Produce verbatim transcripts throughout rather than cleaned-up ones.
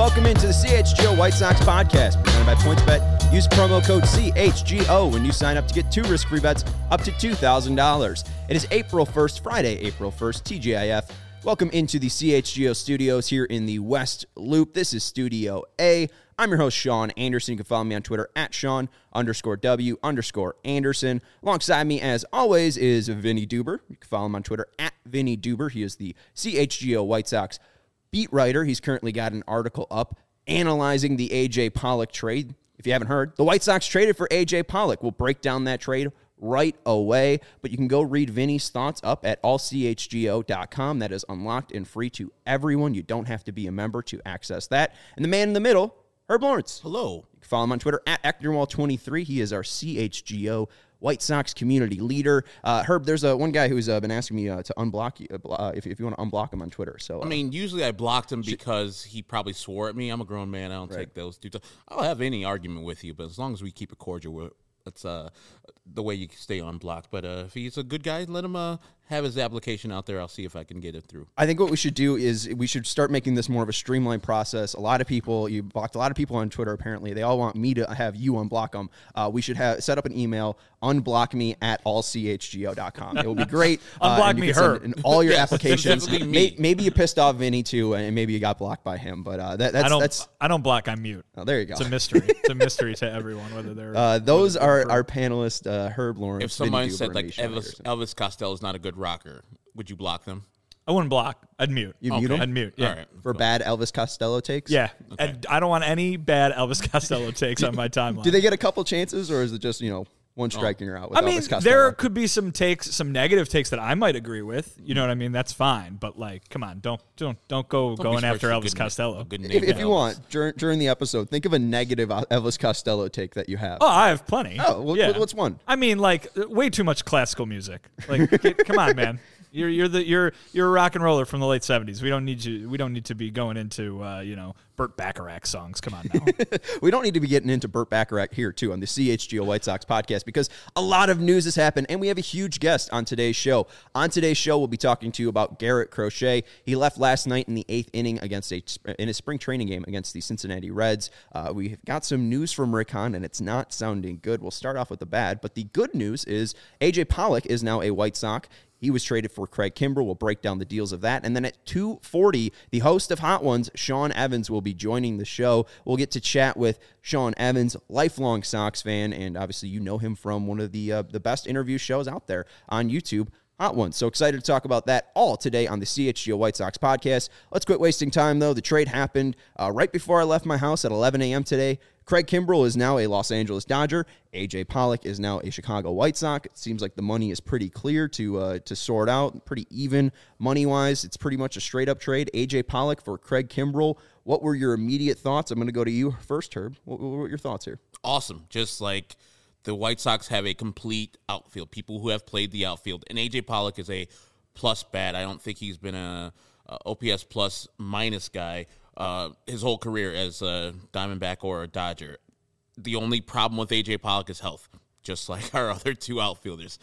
welcome into the C H G O White Sox podcast presented by PointsBet. Use promo code C H G O when you sign up to get two risk-free bets up to two thousand dollars. It is April first, Friday, April first, T G I F. Welcome into the C H G O studios here in the West Loop. This is Studio A. I'm your host, Sean Anderson. You can follow me on Twitter at Sean underscore W underscore Anderson. Alongside me, as always, is Vinny Duber. You can follow him on Twitter at Vinny Duber. He is the C H G O White Sox beat writer. He's currently got an article up analyzing the A J Pollock trade. If you haven't heard, the White Sox traded for A J Pollock. We'll break down that trade right away, but you can go read Vinny's thoughts up at all c h g o dot com. That is unlocked and free to everyone. You don't have to be a member to access that. And the man in the middle, Herb Lawrence. Hello. You can follow him on Twitter at Ectorwall twenty-three. He is our C H G O White Sox community leader. Uh, Herb, there's a, one guy who's uh, been asking me uh, to unblock you, uh, if, if you want to unblock him on Twitter. So uh, I mean, usually I blocked him because he probably swore at me. I'm a grown man. I don't right. take those dudes. I'll have any argument with you, but as long as we keep it cordial, that's uh, the way you stay unblocked. But uh, if he's a good guy, let him uh, have his application out there. I'll see if I can get it through. I think what we should do is we should start making this more of a streamlined process. A lot of people, you blocked a lot of people on Twitter, apparently. They all want me to have you unblock them. Uh, we should have set up an email, unblock me at all c h g o dot com. It will be great. Unblock uh, me, her. In all your yes, applications. May, maybe you pissed off Vinny, too, and maybe you got blocked by him. But uh, that, that's... I don't, that's, I don't block, I mute. Oh, there you go. It's a mystery. It's a mystery to everyone, whether they're... Uh, those are our panelists, uh, Herb Lawrence, If someone Vinny Duber, said, like, Sean Elvis, Elvis Costello is not a good rocker, would you block them? I wouldn't block. I'd mute. You okay. mute him? I'd mute, yeah. All right. For bad Elvis Costello takes? Yeah. Okay. And I don't want any bad Elvis Costello takes on my timeline. Do they get a couple chances, or is it just, you know, one strike and you're out with I mean, Elvis Costello? there could be some takes, some negative takes that I might agree with. You know what I mean? That's fine. But, like, come on. Don't don't don't go Don't going be after good Elvis name- Costello. a good name If, if for you Elvis. want, during, during the episode, think of a negative Elvis Costello take that you have. Oh, I have plenty. Oh, well, yeah. what's one? I mean, like, way too much classical music. Like, get, come on, man. You're you're the you're you're a rock and roller from the late seventies. We don't need you. We don't need to be going into uh, you know Burt Bacharach songs. Come on now. We don't need to be getting into Burt Bacharach here, too, on the C H G O White Sox podcast, because a lot of news has happened, and we have a huge guest on today's show. On today's show, we'll be talking to you about Garrett Crochet. He left last night in the eighth inning against a in a spring training game against the Cincinnati Reds. Uh, we've got some news from Rick Hahn, and it's not sounding good. We'll start off with the bad, but the good news is A J Pollock is now a White Sox. He was traded for Craig Kimbrel. We'll break down the deals of that. And then at two forty, the host of Hot Ones, Sean Evans, will be joining the show. We'll get to chat with Sean Evans, lifelong Sox fan, and obviously you know him from one of the uh, the best interview shows out there on YouTube, Hot Ones. So excited to talk about that all today on the C H G O White Sox podcast. Let's quit wasting time, though. The trade happened uh, right before I left my house at eleven a.m. today. Craig Kimbrel is now a Los Angeles Dodger. A J Pollock is now a Chicago White Sox. It seems like the money is pretty clear to uh, to sort out, pretty even money-wise. It's pretty much a straight-up trade. A J Pollock for Craig Kimbrel. What were your immediate thoughts? I'm going to go to you first, Herb. What, what were your thoughts here? Awesome. Just like the White Sox have a complete outfield, people who have played the outfield. And A J Pollock is a plus bat. I don't think he's been a, a O P S plus minus guy uh, his whole career as a Diamondback or a Dodger. The only problem with A J Pollock is health, just like our other two outfielders.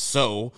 So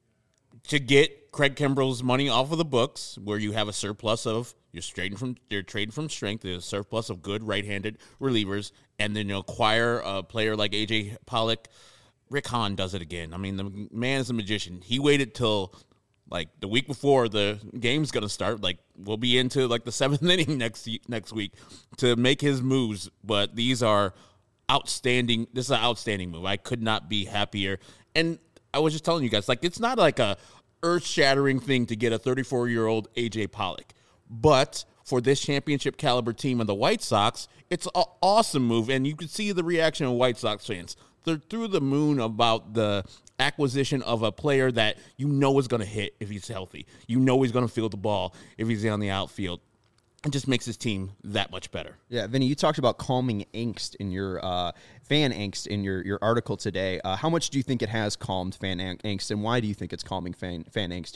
to get Craig Kimbrel's money off of the books, where you have a surplus of you're trading from you're trading from strength, there's a surplus of good right-handed relievers, and then you acquire a player like A J Pollock. Rick Hahn does it again. I mean, the man is a magician. He waited till like the week before the game's gonna start. Like we'll be into like the seventh inning next next week to make his moves. But these are outstanding. This is an outstanding move. I could not be happier. And I was just telling you guys, like, it's not like a earth-shattering thing to get a thirty-four-year-old A J Pollock. But for this championship caliber team of the White Sox, it's an awesome move. And you can see the reaction of White Sox fans. They're through the moon about the acquisition of a player that you know is going to hit if he's healthy. You know he's going to field the ball if he's on the outfield. It just makes his team that much better. Yeah, Vinny, you talked about calming angst in your uh, fan angst in your, your article today. Uh, how much do you think it has calmed fan ang- angst, and why do you think it's calming fan fan angst here?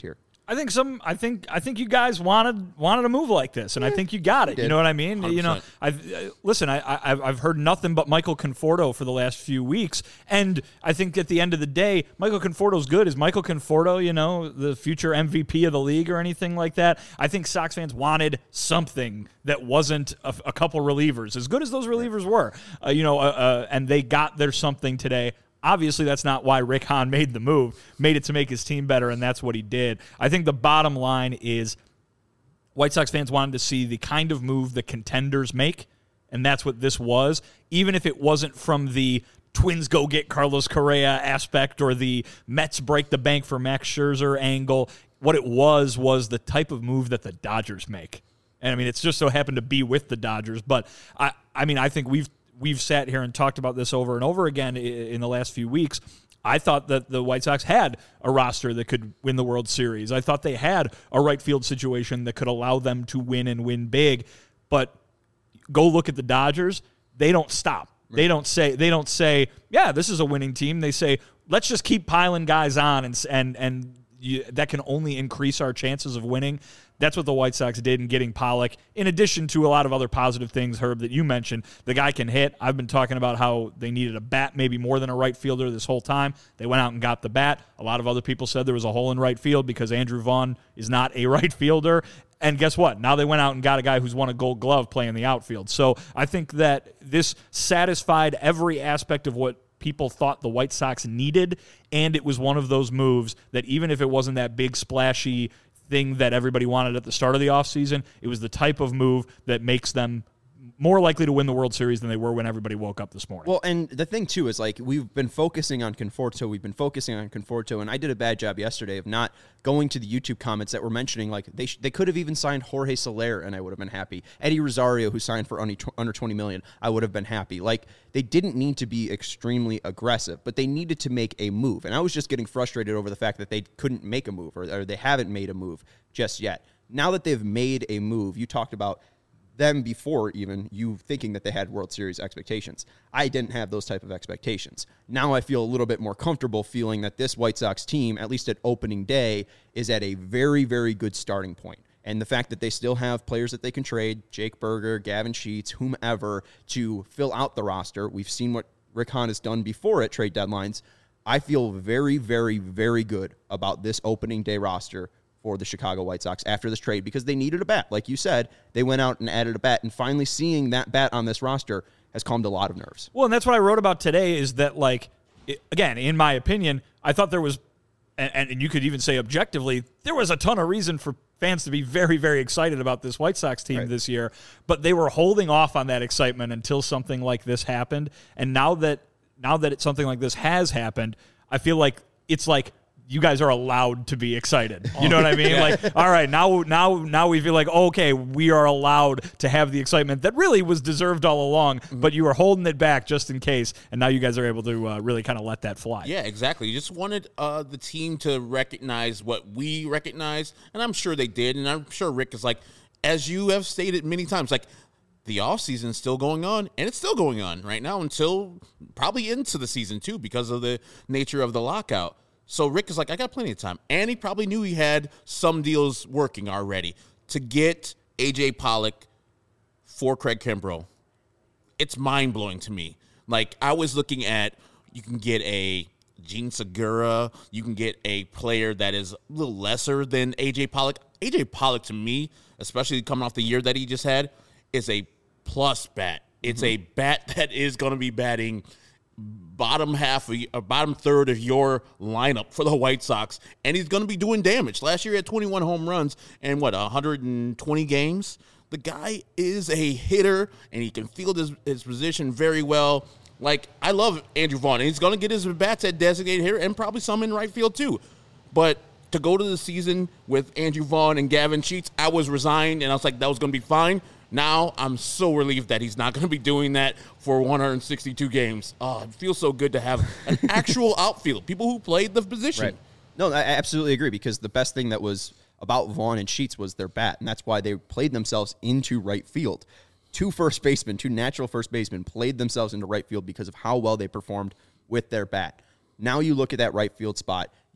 I think some. I think. I think you guys wanted wanted a move like this, and I think you got it. You know what I mean? one hundred percent. You know, I've uh, listen. I, I I've heard nothing but Michael Conforto for the last few weeks, and I think at the end of the day, Michael Conforto's good. Is Michael Conforto, you know, the future M V P of the league or anything like that? I think Sox fans wanted something that wasn't a, a couple relievers, as good as those relievers were. Uh, you know, uh, uh, and they got their something today. Obviously, that's not why Rick Hahn made the move, made it to make his team better, and that's what he did. I think the bottom line is White Sox fans wanted to see the kind of move the contenders make, and that's what this was, even if it wasn't from the Twins go get Carlos Correa aspect or the Mets break the bank for Max Scherzer angle. What it was was the type of move that the Dodgers make. And, I mean, it's just so happened to be with the Dodgers, but, I, I mean, I think we've We've sat here and talked about this over and over again in the last few weeks. I thought that the White Sox had a roster that could win the World Series. I thought they had a right field situation that could allow them to win and win big. But go look at the Dodgers. They don't stop. Right. They don't say, they don't say, yeah, this is a winning team. They say, let's just keep piling guys on, and and and you, that can only increase our chances of winning. That's what the White Sox did in getting Pollock, in addition to a lot of other positive things, Herb, that you mentioned. The guy can hit. I've been talking about how they needed a bat maybe more than a right fielder this whole time. They went out and got the bat. A lot of other people said there was a hole in right field because Andrew Vaughn is not a right fielder. And guess what? Now they went out and got a guy who's won a Gold Glove playing the outfield. So I think that this satisfied every aspect of what people thought the White Sox needed, and it was one of those moves that even if it wasn't that big, splashy thing that everybody wanted at the start of the offseason, it was the type of move that makes them more likely to win the World Series than they were when everybody woke up this morning. Well, and the thing, too, is like we've been focusing on Conforto. We've been focusing on Conforto, and I did a bad job yesterday of not going to the YouTube comments that were mentioning, like, they sh- they could have even signed Jorge Soler, and I would have been happy. Eddie Rosario, who signed for under twenty million dollars, I would have been happy. Like, they didn't need to be extremely aggressive, but they needed to make a move. And I was just getting frustrated over the fact that they couldn't make a move, or, or they haven't made a move just yet. Now that they've made a move, you talked about them before even you thinking that they had World Series expectations. I didn't have those type of expectations. Now I feel a little bit more comfortable feeling that this White Sox team, at least at opening day, is at a very, very good starting point. And the fact that they still have players that they can trade, Jake Berger, Gavin Sheets, whomever, to fill out the roster. We've seen what Rick Hahn has done before at trade deadlines. I feel very, very, very good about this opening day roster for the Chicago White Sox after this trade, because they needed a bat. Like you said, they went out and added a bat, and finally seeing that bat on this roster has calmed a lot of nerves. Well, and that's what I wrote about today, is that, like, it, again, in my opinion, I thought there was, and, and you could even say objectively, there was a ton of reason for fans to be very, very excited about this White Sox team right. this year, but they were holding off on that excitement until something like this happened. And now that now that it, something like this has happened, I feel like it's like, you guys are allowed to be excited. You know what I mean? Yeah. Like, all right, now, now, now we feel like, okay, we are allowed to have the excitement that really was deserved all along, mm-hmm. but you were holding it back just in case, and now you guys are able to uh, really kind of let that fly. Yeah, exactly. You just wanted uh, the team to recognize what we recognize, and I'm sure they did, and I'm sure Rick is like, as you have stated many times, like, the offseason is still going on, and it's still going on right now until probably into the season, too, because of the nature of the lockout. So Rick is like, I got plenty of time. And he probably knew he had some deals working already to get A J Pollock for Craig Kimbrel. It's mind-blowing to me. Like, I was looking at, you can get a Gene Segura. You can get a player that is a little lesser than A J Pollock. A J Pollock, to me, especially coming off the year that he just had, is a plus bat. It's mm-hmm. a bat that is going to be batting bottom half, of, or bottom third of your lineup for the White Sox, and he's going to be doing damage. Last year he had twenty-one home runs and, what, one hundred twenty games? The guy is a hitter, and he can field his, his position very well. Like, I love Andrew Vaughn, and he's going to get his bats at designated hitter and probably some in right field too. But to go to the season with Andrew Vaughn and Gavin Sheets, I was resigned, and I was like, that was going to be fine. Now I'm so relieved that he's not going to be doing that for one hundred sixty-two games. Oh, it feels so good to have an actual outfield, people who played the position. Right. No, I absolutely agree, because the best thing that was about Vaughn and Sheets was their bat, and that's why they played themselves into right field. Two first basemen, two natural first basemen played themselves into right field because of how well they performed with their bat. Now you look at that right field spot,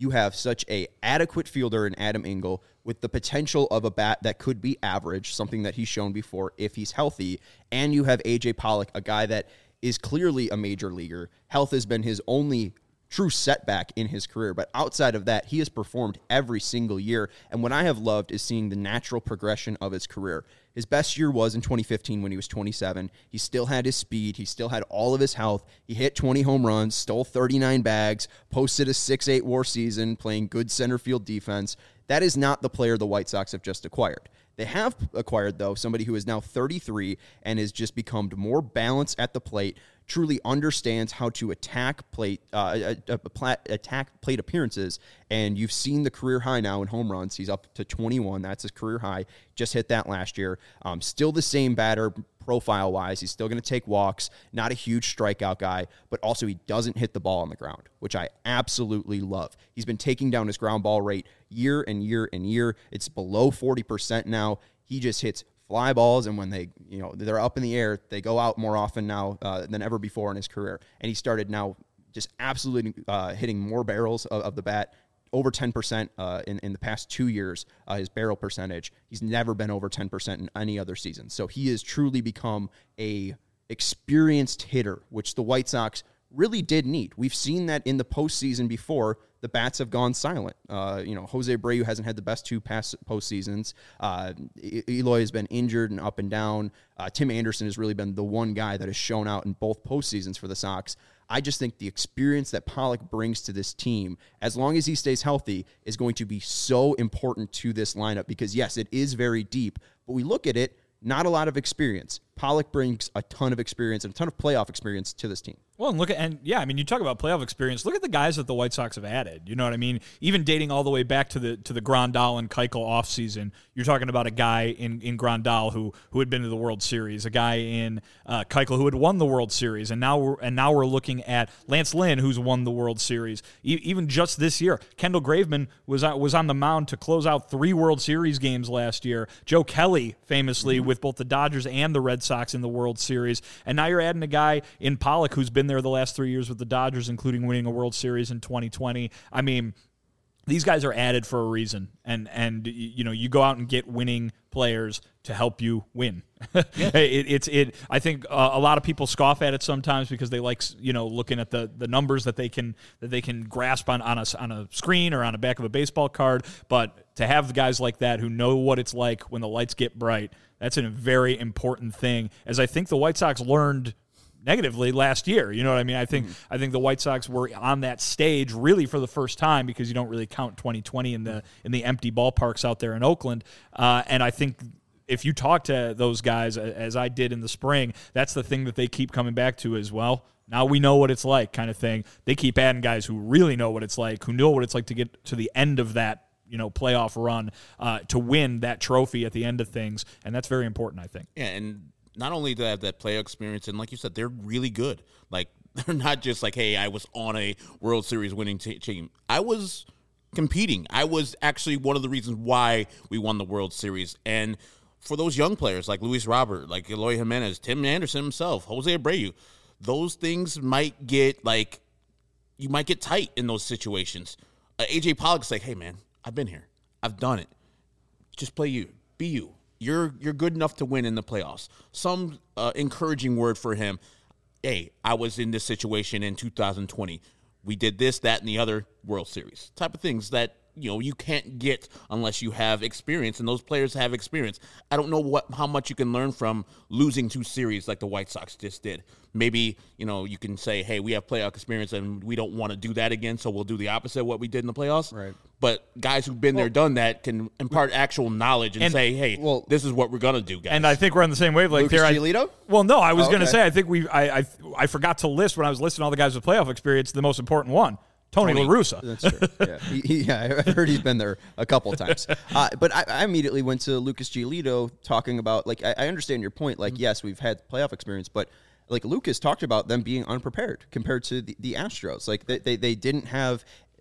you have such a adequate fielder in Adam Engel with the potential of a bat that could be average, something that he's shown before if he's healthy, and you have A J Pollock, a guy that is clearly a major leaguer. Health has been his only true setback in his career, but outside of that, he has performed every single year, and what I have loved is seeing the natural progression of his career. His best year was in twenty fifteen when he was twenty-seven. He still had his speed. He still had all of his health. He hit twenty home runs, stole thirty-nine bags, posted a six eight WAR season, playing good center field defense. That is not the player the White Sox have just acquired. They have acquired, though, somebody who is now thirty-three and has just become more balanced at the plate, truly understands how to attack plate uh, attack plate appearances, and you've seen the career high now in home runs. He's up to twenty-one. That's his career high. Just hit that last year. Um, still the same batter profile-wise. He's still going to take walks. Not a huge strikeout guy, but also he doesn't hit the ball on the ground, which I absolutely love. He's been taking down his ground ball rate year and year and year. It's below forty percent now. He just hits fly balls, and when they, you know, they're up in the air, they go out more often now uh, than ever before in his career. And he started now just absolutely uh, hitting more barrels of, of the bat, over ten percent uh, in, in the past two years, uh, his barrel percentage. He's never been over ten percent in any other season. So he has truly become a experienced hitter, which the White Sox really did need. We've seen that in the postseason before. The bats have gone silent. Uh, you know, Jose Abreu hasn't had the best two past postseasons. Uh, Eloy has been injured and up and down. Uh, Tim Anderson has really been the one guy that has shown out in both postseasons for the Sox. I just think the experience that Pollock brings to this team, as long as he stays healthy, is going to be so important to this lineup because, yes, it is very deep, but we look at it, not a lot of experience. Pollock brings a ton of experience and a ton of playoff experience to this team. Well, and look at, and yeah, I mean, you talk about playoff experience. Look at the guys that the White Sox have added. You know what I mean? Even dating all the way back to the to the Grandal and Keuchel offseason, you're talking about a guy in, in Grandal who who had been to the World Series, a guy in uh, Keuchel who had won the World Series, and now we're and now we're looking at Lance Lynn, who's won the World Series. E- even just this year, Kendall Graveman was uh, was on the mound to close out three World Series games last year. Joe Kelly, famously, mm-hmm. with both the Dodgers and the Red Sox in the World Series, and now you're adding a guy in Pollock who's been there the last three years with the Dodgers, including winning a World Series in twenty twenty. I mean, these guys are added for a reason, and and you know you go out and get winning players to help you win. Yeah. it, it's it. I think uh, a lot of people scoff at it sometimes because they like you know looking at the, the numbers that they can that they can grasp on on a on a screen or on the back of a baseball card. But to have guys like that who know what it's like when the lights get bright, that's a very important thing. As I think the White Sox learned negatively last year. You know what I mean? I think mm-hmm. I think the White Sox were on that stage really for the first time because you don't really count twenty twenty in the in the empty ballparks out there in Oakland. Uh, and I think if you talk to those guys, as I did in the spring, that's the thing that they keep coming back to as well. Now we know what it's like kind of thing. They keep adding guys who really know what it's like, who know what it's like to get to the end of that you know, playoff run uh, to win that trophy at the end of things. And that's very important, I think. Yeah, and not only do they have that player experience, and like you said, they're really good. Like, they're not just like, hey, I was on a World Series winning t- team. I was competing. I was actually one of the reasons why we won the World Series. And for those young players like Luis Robert, like Eloy Jimenez, Tim Anderson himself, Jose Abreu, those things might get, like, you might get tight in those situations. Uh, A J Pollock's like, hey, man, I've been here. I've done it. Just play you. Be you. You're you're good enough to win in the playoffs. Some uh, encouraging word for him. Hey, I was in this situation in two thousand twenty. We did this, that, and the other World Series. Type of things that, you know, you can't get unless you have experience, and those players have experience. I don't know what how much you can learn from losing two series like the White Sox just did. Maybe, you know, you can say, hey, we have playoff experience, and we don't want to do that again, so we'll do the opposite of what we did in the playoffs. Right. But guys who've been well, there, done that, can impart actual knowledge and, and say, hey, well, this is what we're going to do, guys. And I think we're on the same wavelength Lucas there. Giolito? Well, no, I was oh, going to okay. say, I think we, I, I, I forgot to list when I was listing all the guys with playoff experience, the most important one. Tony, Tony La Russa. That's true. Yeah, he, he, yeah, I've heard he's been there a couple of times. Uh, but I, I immediately went to Lucas Giolito talking about, like, I, I understand your point. Like, mm-hmm. yes, we've had playoff experience, but, like, Lucas talked about them being unprepared compared to the, the Astros. Like, they, they, they didn't have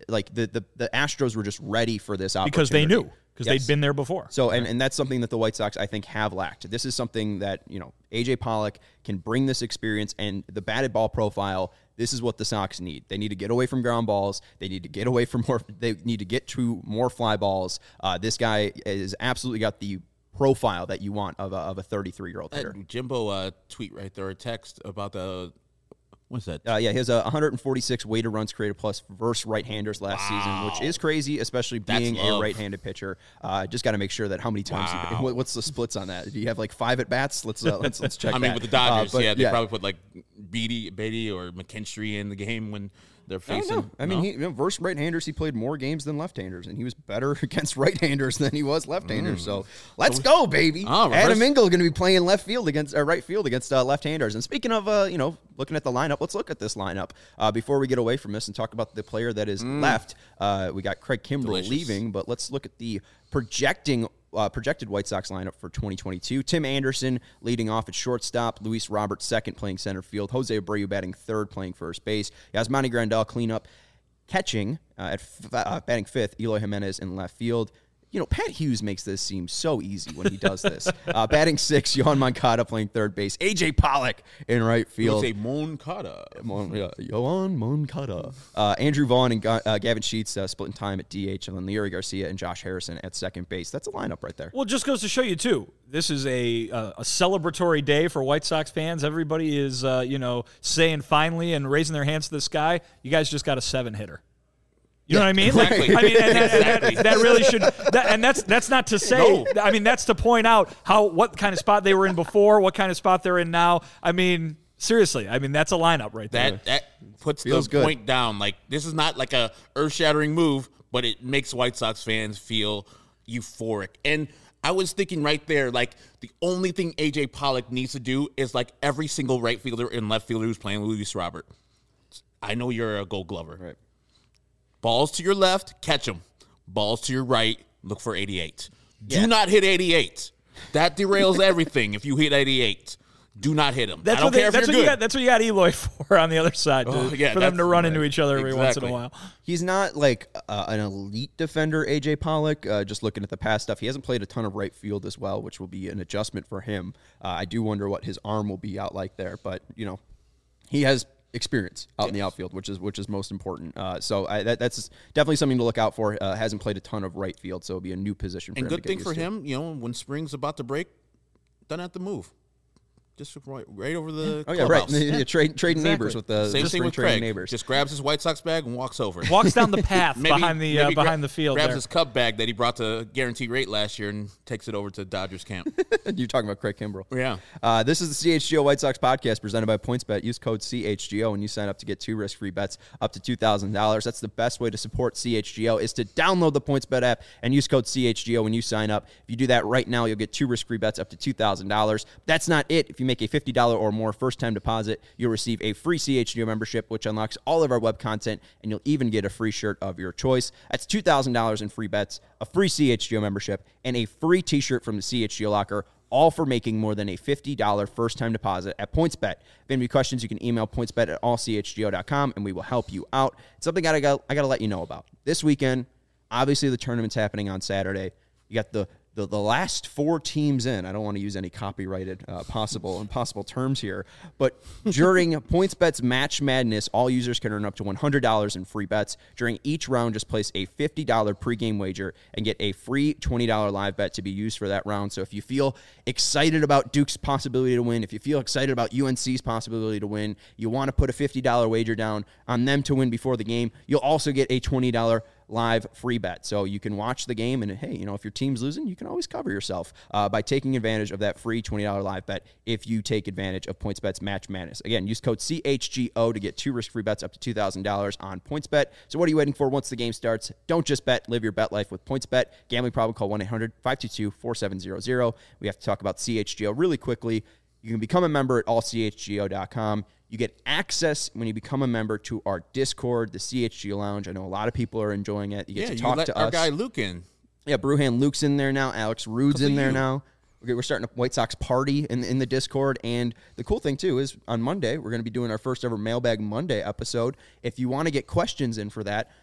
like the, the, the Astros were just ready for this opportunity. Because they knew. Because Yes. they'd been there before. So, and, and that's something that the White Sox, I think, have lacked. This is something that, you know, A J Pollock can bring this experience and the batted ball profile. This is what the Sox need. They need to get away from ground balls. They need to get away from more, they need to get to more fly balls. Uh, this guy has absolutely got the profile that you want of a, of a thirty-three-year-old hitter. Uh, Jimbo uh, tweet right there, a text about the, what's that? Uh, yeah, he has a one hundred forty-six weighted runs created plus versus right-handers last wow. season, which is crazy, especially being a right-handed pitcher. Uh, just got to make sure that how many times. Wow. You, what's the splits on that? Do you have like five at bats? Let's uh, let's let's check. I mean, that. with the Dodgers, uh, but, yeah, they yeah. probably put like Beatty, Beatty or McKinstry in the game when they're facing. I, don't know. I mean, no? he, you know, versus right-handers, he played more games than left-handers, and he was better against right-handers than he was left-handers. Mm. So let's so, go, baby! Oh, Adam Engel going to be playing left field against uh, right field against uh, left-handers. And speaking of, uh, you know, looking at the lineup, let's look at this lineup uh, before we get away from this and talk about the player that is mm. left. Uh, we got Craig Kimbrell Delicious. leaving, but let's look at the projecting. Uh, projected White Sox lineup for twenty twenty-two. Tim Anderson leading off at shortstop. Luis Robert second, playing center field. Jose Abreu batting third, playing first base. Yasmani Grandal cleanup. Catching uh, at f- uh, batting fifth, Eloy Jimenez in left field. You know, Pat Hughes makes this seem so easy when he does this. uh, batting six, Yohan Moncada playing third base. A J Pollock in right field. It's a Moncada. Mon, yeah, Yohan Moncada. Uh, Andrew Vaughn and Ga- uh, Gavin Sheets uh, splitting time at D H, and then Leury Garcia and Josh Harrison at second base. That's a lineup right there. Well, it just goes to show you, too. This is a uh, a celebratory day for White Sox fans. Everybody is, uh, you know, saying finally and raising their hands to the sky. You guys just got a seven-hitter. You know what I mean? Exactly. Like, I mean, and that, exactly. that, that really should. That, and that's that's not to say. No. I mean, that's to point out how what kind of spot they were in before, what kind of spot they're in now. I mean, seriously. I mean, that's a lineup right there. That that puts Feels the good. point down. Like, this is not like a earth-shattering move, but it makes White Sox fans feel euphoric. And I was thinking right there, like, the only thing A J Pollock needs to do is like every single right fielder and left fielder who's playing Luis Robert. I know you're a Gold Glover. Right. Balls to your left, catch them. Balls to your right, look for eighty-eight. Do Yeah. not hit eighty-eight. That derails everything if you hit eighty-eight. Do not hit them. That's I don't what they, care if that's you're what good. You got, that's what you got Eloy for on the other side, Oh, to, yeah, for them to run right. into each other every Exactly. once in a while. He's not like uh, an elite defender, A J Pollock. Uh, just looking at the past stuff, he hasn't played a ton of right field as well, which will be an adjustment for him. Uh, I do wonder what his arm will be out like there, but you know, he has experience out yes. in the outfield, which is which is most important. Uh, so I, that, that's definitely something to look out for. Uh, hasn't played a ton of right field, so it'll be a new position for and him. good to get thing used for to. him, you know, when spring's about to break, doesn't have to move. Just right, right over the oh yeah, clubhouse. right. Yeah. Trade trading exactly. neighbors with the same the thing with trading Craig. neighbors. Just grabs his White Sox bag and walks over. Walks down the path maybe, behind the uh, behind gra- the field. Grabs there. his Cub bag that he brought to Guaranteed Rate last year and takes it over to Dodgers camp. You're talking about Craig Kimbrell. Yeah. Uh, this is the C H G O White Sox podcast presented by PointsBet. Use code C H G O when you sign up to get two risk-free bets up to two thousand dollars. That's the best way to support C H G O is to download the PointsBet app and use code C H G O when you sign up. If you do that right now, you'll get two risk-free bets up to two thousand dollars. That's not it. If you make a fifty dollars or more first-time deposit, you'll receive a free C H G O membership, which unlocks all of our web content, and you'll even get a free shirt of your choice. That's two thousand dollars in free bets, a free C H G O membership, and a free t-shirt from the C H G O locker, all for making more than a fifty dollars first-time deposit at PointsBet. If you have any questions, you can email pointsbet at all c h g o dot com, and we will help you out. It's something I got I got to let you know about. This weekend, obviously the tournament's happening on Saturday. You got the The, the last four teams in, I don't want to use any copyrighted uh, possible impossible terms here, but during PointsBet's Match Madness, all users can earn up to one hundred dollars in free bets. During each round, just place a fifty dollars pregame wager and get a free twenty dollars live bet to be used for that round. So if you feel excited about Duke's possibility to win, if you feel excited about U N C's possibility to win, you want to put a fifty dollars wager down on them to win before the game, you'll also get a twenty dollars live free bet. So you can watch the game, and hey, you know, if your team's losing, you can always cover yourself uh, by taking advantage of that free twenty dollars live bet if you take advantage of PointsBet's Match Madness. Again, use code C H G O to get two risk-free bets up to two thousand dollars on PointsBet. So what are you waiting for once the game starts? Don't just bet, live your bet life with PointsBet. Gambling problem, call one eight hundred five two two four seven zero zero. We have to talk about C H G O really quickly. You can become a member at all c h g o dot com. You get access when you become a member to our Discord, the C H G O Lounge. I know a lot of people are enjoying it. You get yeah, to you talk let to our us. guy Luke in. Yeah, Brewhand Luke's in there now. Alex Rude's in there you. now. Okay, we're starting a White Sox party in, in the Discord. And the cool thing, too, is on Monday, we're going to be doing our first ever Mailbag Monday episode. If you want to get questions in for that,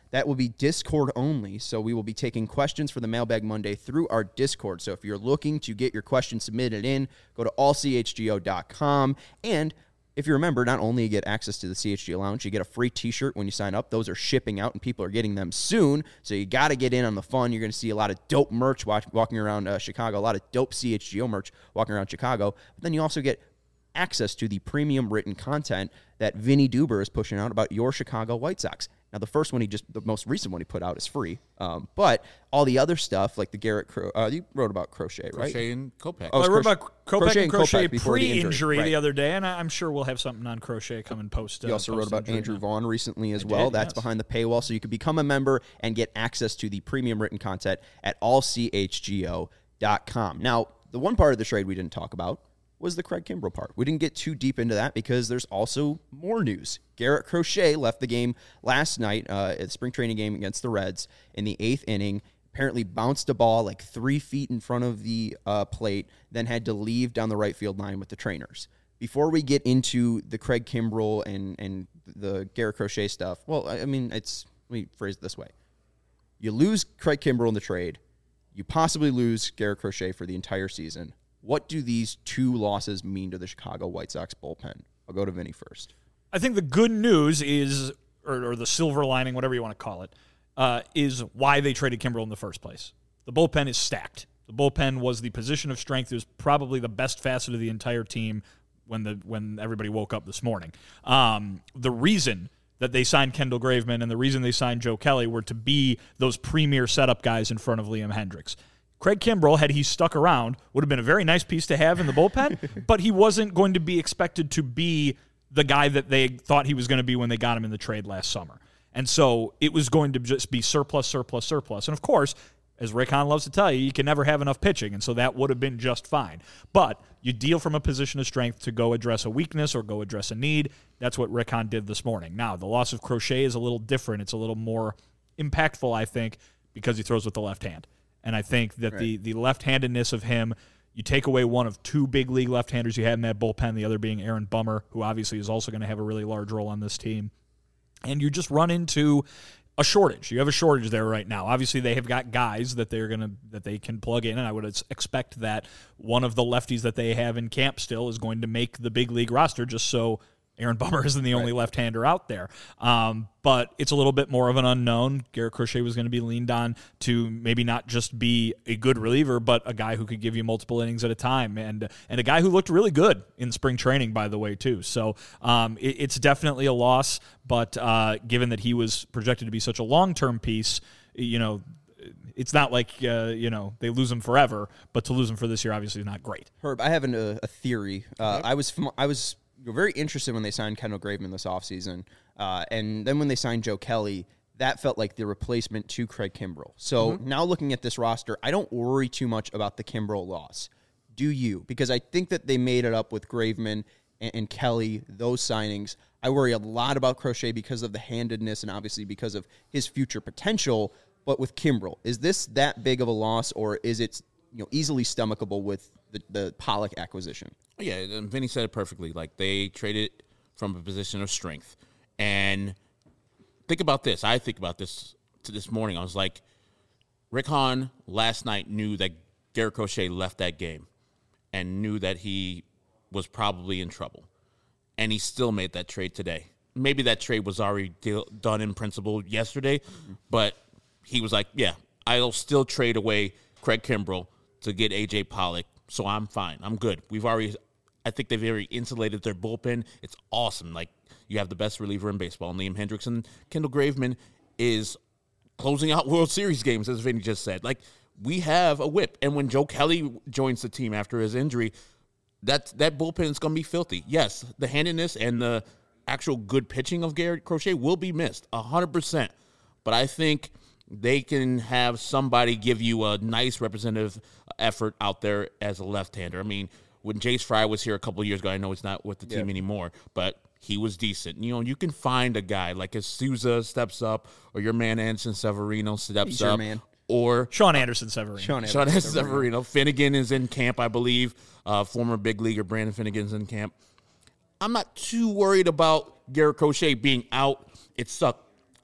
That will be Discord only, so we will be taking questions for the Mailbag Monday through our Discord. So if you're looking to get your questions submitted in, go to all c h g o dot com. And if you remember, not only you get access to the C H G O Lounge, you get a free t-shirt when you sign up. Those are shipping out, and people are getting them soon, so you got to get in on the fun. You're going to see a lot of dope merch watch, walking around uh, Chicago, a lot of dope C H G O merch walking around Chicago. But then you also get access to the premium written content that Vinny Duber is pushing out about your Chicago White Sox. Now, the first one he just, the most recent one he put out is free, um, but all the other stuff, like the Garrett, Cro- uh, you wrote about Crochet, right? Crochet and Kopech. Oh, well, I wrote Cro- about Kopech and Crochet, Kopech pre-injury the, the other day, and I'm sure we'll have something on Crochet coming post. Uh, you also wrote about Andrew now. Vaughn recently as I well. did, That's yes. behind the paywall, so you can become a member and get access to the premium written content at all c h g o dot com. Now, the one part of the trade we didn't talk about was the Craig Kimbrell part. We didn't get too deep into that because there's also more news. Garrett Crochet left the game last night uh, at the spring training game against the Reds in the eighth inning, apparently bounced a ball like three feet in front of the uh, plate, then had to leave down the right field line with the trainers. Before we get into the Craig Kimbrell and, and the Garrett Crochet stuff, well, I mean, it's, let me phrase it this way. You lose Craig Kimbrell in the trade. You possibly lose Garrett Crochet for the entire season. What do these two losses mean to the Chicago White Sox bullpen? I'll go to Vinny first. I think the good news is, or, or the silver lining, whatever you want to call it, uh, is why they traded Kimbrell in the first place. The bullpen is stacked. The bullpen was the position of strength. It was probably the best facet of the entire team when the when everybody woke up this morning. Um, the reason that they signed Kendall Graveman and the reason they signed Joe Kelly were to be those premier setup guys in front of Liam Hendriks. Craig Kimbrell, had he stuck around, would have been a very nice piece to have in the bullpen, but he wasn't going to be expected to be the guy that they thought he was going to be when they got him in the trade last summer. And so it was going to just be surplus, surplus, surplus. And, of course, as Rick Hahn loves to tell you, you can never have enough pitching, and so that would have been just fine. But you deal from a position of strength to go address a weakness or go address a need. That's what Rick Hahn did this morning. Now, the loss of Crochet is a little different. It's a little more impactful, I think, because he throws with the left hand. And I think that right. the, the left-handedness of him, you take away one of two big league left-handers you had in that bullpen, the other being Aaron Bummer, who obviously is also going to have a really large role on this team. And you just run into a shortage. You have a shortage there right now. Obviously, they have got guys that they're going to that they can plug in, and I would expect that one of the lefties that they have in camp still is going to make the big league roster just so Aaron Bummer isn't the only right. left-hander out there. Um, but it's a little bit more of an unknown. Garrett Crochet was going to be leaned on to maybe not just be a good reliever, but a guy who could give you multiple innings at a time, and and a guy who looked really good in spring training, by the way, too. So um, it, it's definitely a loss, but uh, given that he was projected to be such a long-term piece, you know, it's not like, uh, you know, they lose him forever, but to lose him for this year obviously is not great. Herb, I have an, a, a theory. Uh, I was fam- I was... You're very interested when they signed Kendall Graveman this offseason. Uh, and then when they signed Joe Kelly, that felt like the replacement to Craig Kimbrell. So mm-hmm. now looking at this roster, I don't worry too much about the Kimbrell loss. Do you? Because I think that they made it up with Graveman and, and Kelly, those signings. I worry a lot about Crochet because of the handedness and obviously because of his future potential. But with Kimbrell, is this that big of a loss, or is it, you know, easily stomachable with the, the Pollock acquisition? Yeah, and Vinny said it perfectly. Like, they traded from a position of strength. And think about this. I think about this to this morning. I was like, Rick Hahn last night knew that Garrett Crochet left that game and knew that he was probably in trouble. And he still made that trade today. Maybe that trade was already deal, done in principle yesterday, mm-hmm. but he was like, yeah, I'll still trade away Craig Kimbrell to get A J Pollock, so I'm fine. I'm good. We've already... I think they've very insulated their bullpen. It's awesome. Like, you have the best reliever in baseball, and Liam Hendriks, and Kendall Graveman is closing out World Series games, as Vinny just said. Like, we have a whip. And when Joe Kelly joins the team after his injury, that, that bullpen is going to be filthy. Yes, the handedness and the actual good pitching of Garrett Crochet will be missed, one hundred percent. But I think they can have somebody give you a nice representative effort out there as a left-hander. I mean, when Jace Fry was here a couple of years ago, I know he's not with the team yeah. anymore, but he was decent. You know, you can find a guy like as Souza steps up, or your man Anderson Severino steps he's up, your man. or Sean Anderson Severino. Sean Anderson, Sean Anderson Severino. Severino. Finnegan is in camp, I believe. Uh, former big leaguer Brandon Finnegan's in camp. I'm not too worried about Garrett Crochet being out. It sucked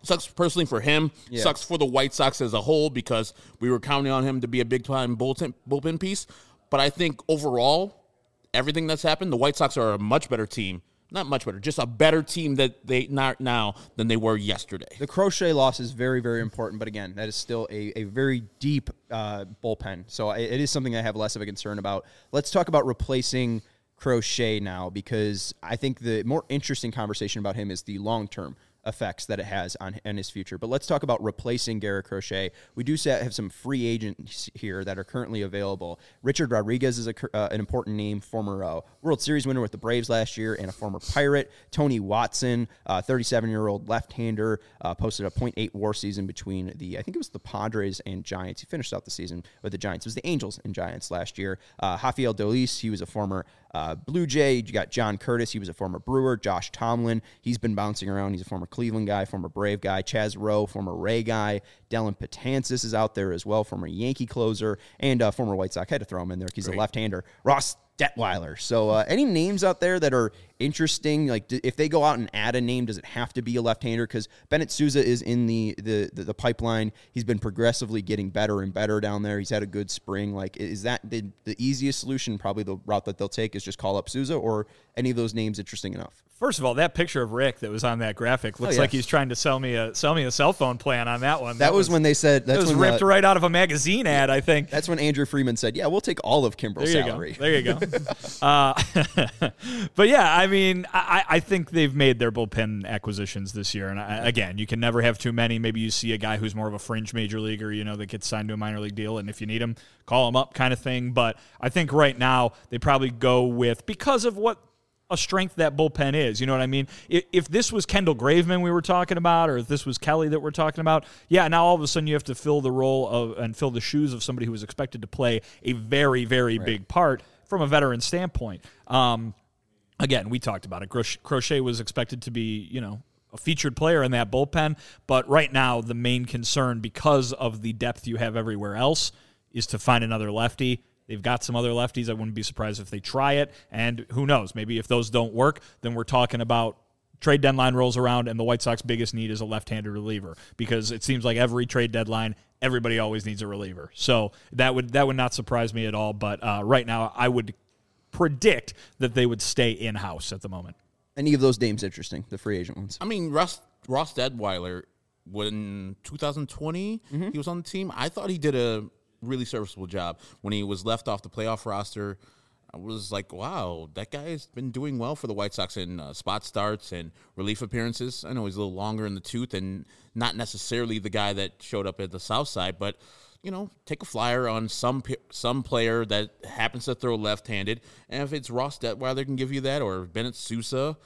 Sucks personally for him. Yeah. Sucks for the White Sox as a whole because we were counting on him to be a big-time bullpen, bullpen piece. But I think overall, everything that's happened, the White Sox are a much better team. Not much better, just a better team that they not now than they were yesterday. The Crochet loss is very, very important, but again, that is still a, a very deep uh, bullpen. So it, it is something I have less of a concern about. Let's talk about replacing Crochet now, because I think the more interesting conversation about him is the long-term effects that it has on, on his future. But let's talk about replacing Garrett Crochet. We do have some free agents here that are currently available. Richard Rodriguez is a, uh, an important name, former uh, World Series winner with the Braves last year and a former Pirate. Tony Watson, uh, thirty-seven-year-old left-hander, uh, posted a point eight WAR season between the, I think it was the Padres and Giants. He finished out the season with the Giants. It was the Angels and Giants last year. Uh, Rafael Dolis, he was a former Uh, Blue Jay. You got John Curtis. He was a former Brewer. Josh Tomlin. He's been bouncing around. He's a former Cleveland guy, former Brave guy. Chaz Rowe, former Ray guy. Dylan Patansis is out there as well, former Yankee closer, and uh, former White Sox. I had to throw him in there because he's a left-hander. Ross Detweiler. So uh, any names out there that are interesting? Like d- if they go out and add a name, does it have to be a left-hander? Because Bennett Sousa is in the, the the the pipeline. He's been progressively getting better and better down there. He's had a good spring. Like is that the, the easiest solution? Probably the route that they'll take is just call up Sousa, or any of those names interesting enough? First of all, that picture of Rick that was on that graphic looks oh, yeah. like he's trying to sell me a sell me a cell phone plan on that one. That, that was, was when they said that was when ripped the, right out of a magazine ad. I think that's when Andrew Freeman said, "Yeah, we'll take all of Kimbrel's there you salary." Go. There you go. uh, but yeah, I mean, I, I think they've made their bullpen acquisitions this year, and I, again, you can never have too many. Maybe you see a guy who's more of a fringe major leaguer, you know, that gets signed to a minor league deal, and if you need him, call him up, kind of thing. But I think right now they probably go with, because of what a strength that bullpen is. You know what I mean? If, if this was Kendall Graveman we were talking about, or if this was Kelly that we're talking about, yeah, now all of a sudden you have to fill the role of and fill the shoes of somebody who was expected to play a very, very right. big part from a veteran standpoint. Um, again, we talked about it. Crochet was expected to be, you know, a featured player in that bullpen, but right now the main concern, because of the depth you have everywhere else, is to find another lefty. They've got some other lefties. I wouldn't be surprised if they try it. And who knows? Maybe if those don't work, then we're talking about trade deadline rolls around and the White Sox biggest need is a left-handed reliever, because it seems like every trade deadline, everybody always needs a reliever. So that would that would not surprise me at all. But uh, right now, I would predict that they would stay in-house at the moment. Any of those names interesting, the free agent ones? I mean, Ross, Ross Detweiler, when twenty twenty, mm-hmm. he was on the team. I thought he did a really serviceable job when he was left off the playoff roster. I was like, wow, that guy's been doing well for the White Sox in uh, spot starts and relief appearances. I know he's a little longer in the tooth and not necessarily the guy that showed up at the South Side, but you know, take a flyer on some some player that happens to throw left-handed, and if it's Ross Detweiler can give you that, or Bennett Sousa,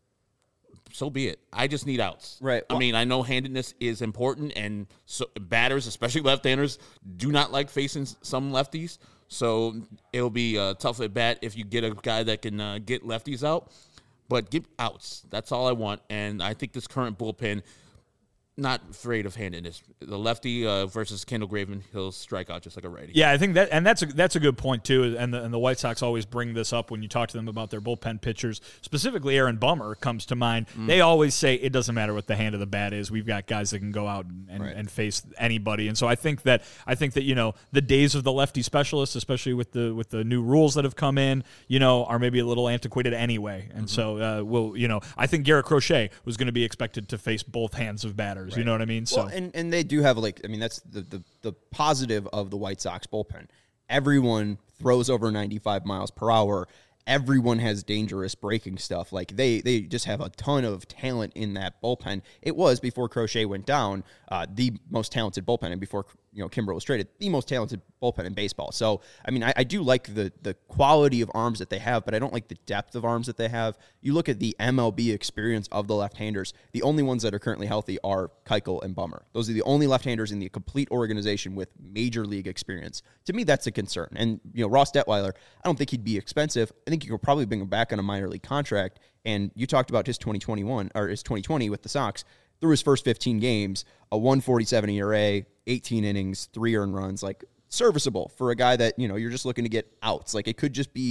so be it. I just need outs. Right. I mean, I know handedness is important, and so batters, especially left-handers, do not like facing some lefties. So it'll be a tough at bat if you get a guy that can uh, get lefties out. But get outs. That's all I want. And I think this current bullpen, not afraid of handedness. The lefty uh, versus Kendall Graveman, he'll strike out just like a righty. Yeah, I think that, and that's a that's a good point too. And the, and the White Sox always bring this up when you talk to them about their bullpen pitchers. Specifically, Aaron Bummer comes to mind. Mm. They always say it doesn't matter what the hand of the bat is. We've got guys that can go out and, and, right. and face anybody. And so I think that I think that you know the days of the lefty specialists, especially with the with the new rules that have come in, you know, are maybe a little antiquated anyway. And mm-hmm. so uh, we'll you know I think Garrett Crochet was going to be expected to face both hands of batters. Right. You know what I mean? So well, and, and they do have, like, I mean, that's the, the, the positive of the White Sox bullpen. Everyone throws over ninety-five miles per hour. Everyone has dangerous breaking stuff. Like, they they just have a ton of talent in that bullpen. It was, before Crochet went down, uh, the most talented bullpen, and before, you know, Kimbrel was traded, the most talented bullpen in baseball. So, I mean, I, I do like the the quality of arms that they have, but I don't like the depth of arms that they have. You look at the M L B experience of the left-handers, the only ones that are currently healthy are Keuchel and Bummer. Those are the only left-handers in the complete organization with major league experience. To me, that's a concern. And, you know, Ross Detweiler, I don't think he'd be expensive. I think you could probably bring him back on a minor league contract. And you talked about his twenty twenty-one, or his twenty twenty with the Sox. Through his first fifteen games, a one forty-seven E R A, eighteen innings, three earned runs, like serviceable for a guy that, you know, you're just looking to get outs. Like, it could just be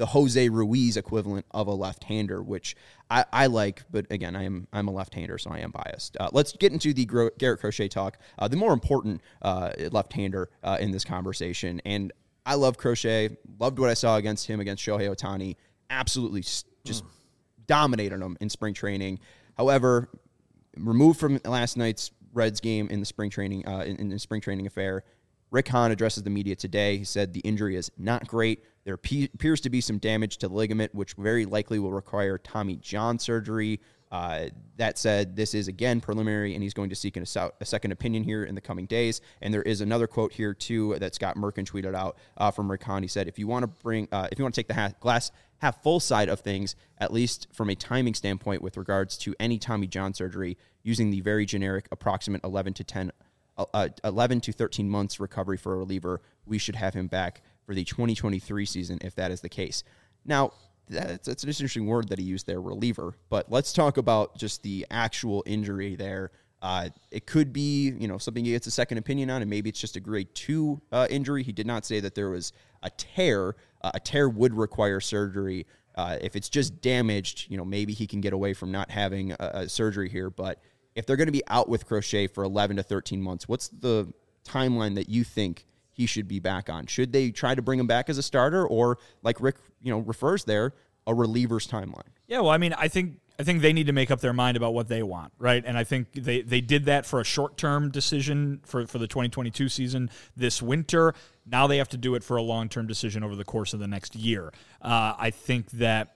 the Jose Ruiz equivalent of a left-hander, which I, I like, but again, I am I'm a left-hander, so I am biased. Uh, let's get into the Gro- Garrett Crochet talk, uh, the more important uh, left-hander uh, in this conversation. And I love Crochet, loved what I saw against him against Shohei Ohtani, absolutely just mm. dominated him in spring training. However, removed from last night's Reds game in the spring training uh, in, in the spring training affair, Rick Hahn addresses the media today. He said the injury is not great. There appears to be some damage to the ligament, which very likely will require Tommy John surgery. Uh, that said, this is, again, preliminary, and he's going to seek an, a second opinion here in the coming days. And there is another quote here, too, that Scott Merkin tweeted out uh, from Rick Hahn. He said, if you want to bring, uh, if you want to take the half, glass half full side of things, at least from a timing standpoint with regards to any Tommy John surgery, using the very generic approximate eleven to ten Uh, eleven to thirteen months recovery for a reliever, we should have him back for the twenty twenty-three season if that is the case. Now, that's, that's an interesting word that he used there, reliever, but let's talk about just the actual injury there. Uh, it could be, you know, something he gets a second opinion on, and maybe it's just a grade two uh, injury. He did not say that there was a tear. Uh, a tear would require surgery. Uh, if it's just damaged, you know, maybe he can get away from not having a, a surgery here, but if they're going to be out with Crochet for eleven to thirteen months, what's the timeline that you think he should be back on? Should they try to bring him back as a starter, or like Rick, you know, refers there, a reliever's timeline? Yeah, well, I mean, I think I think they need to make up their mind about what they want, right? And I think they, they did that for a short-term decision for, for the twenty twenty-two season this winter. Now they have to do it for a long-term decision over the course of the next year. Uh, I think that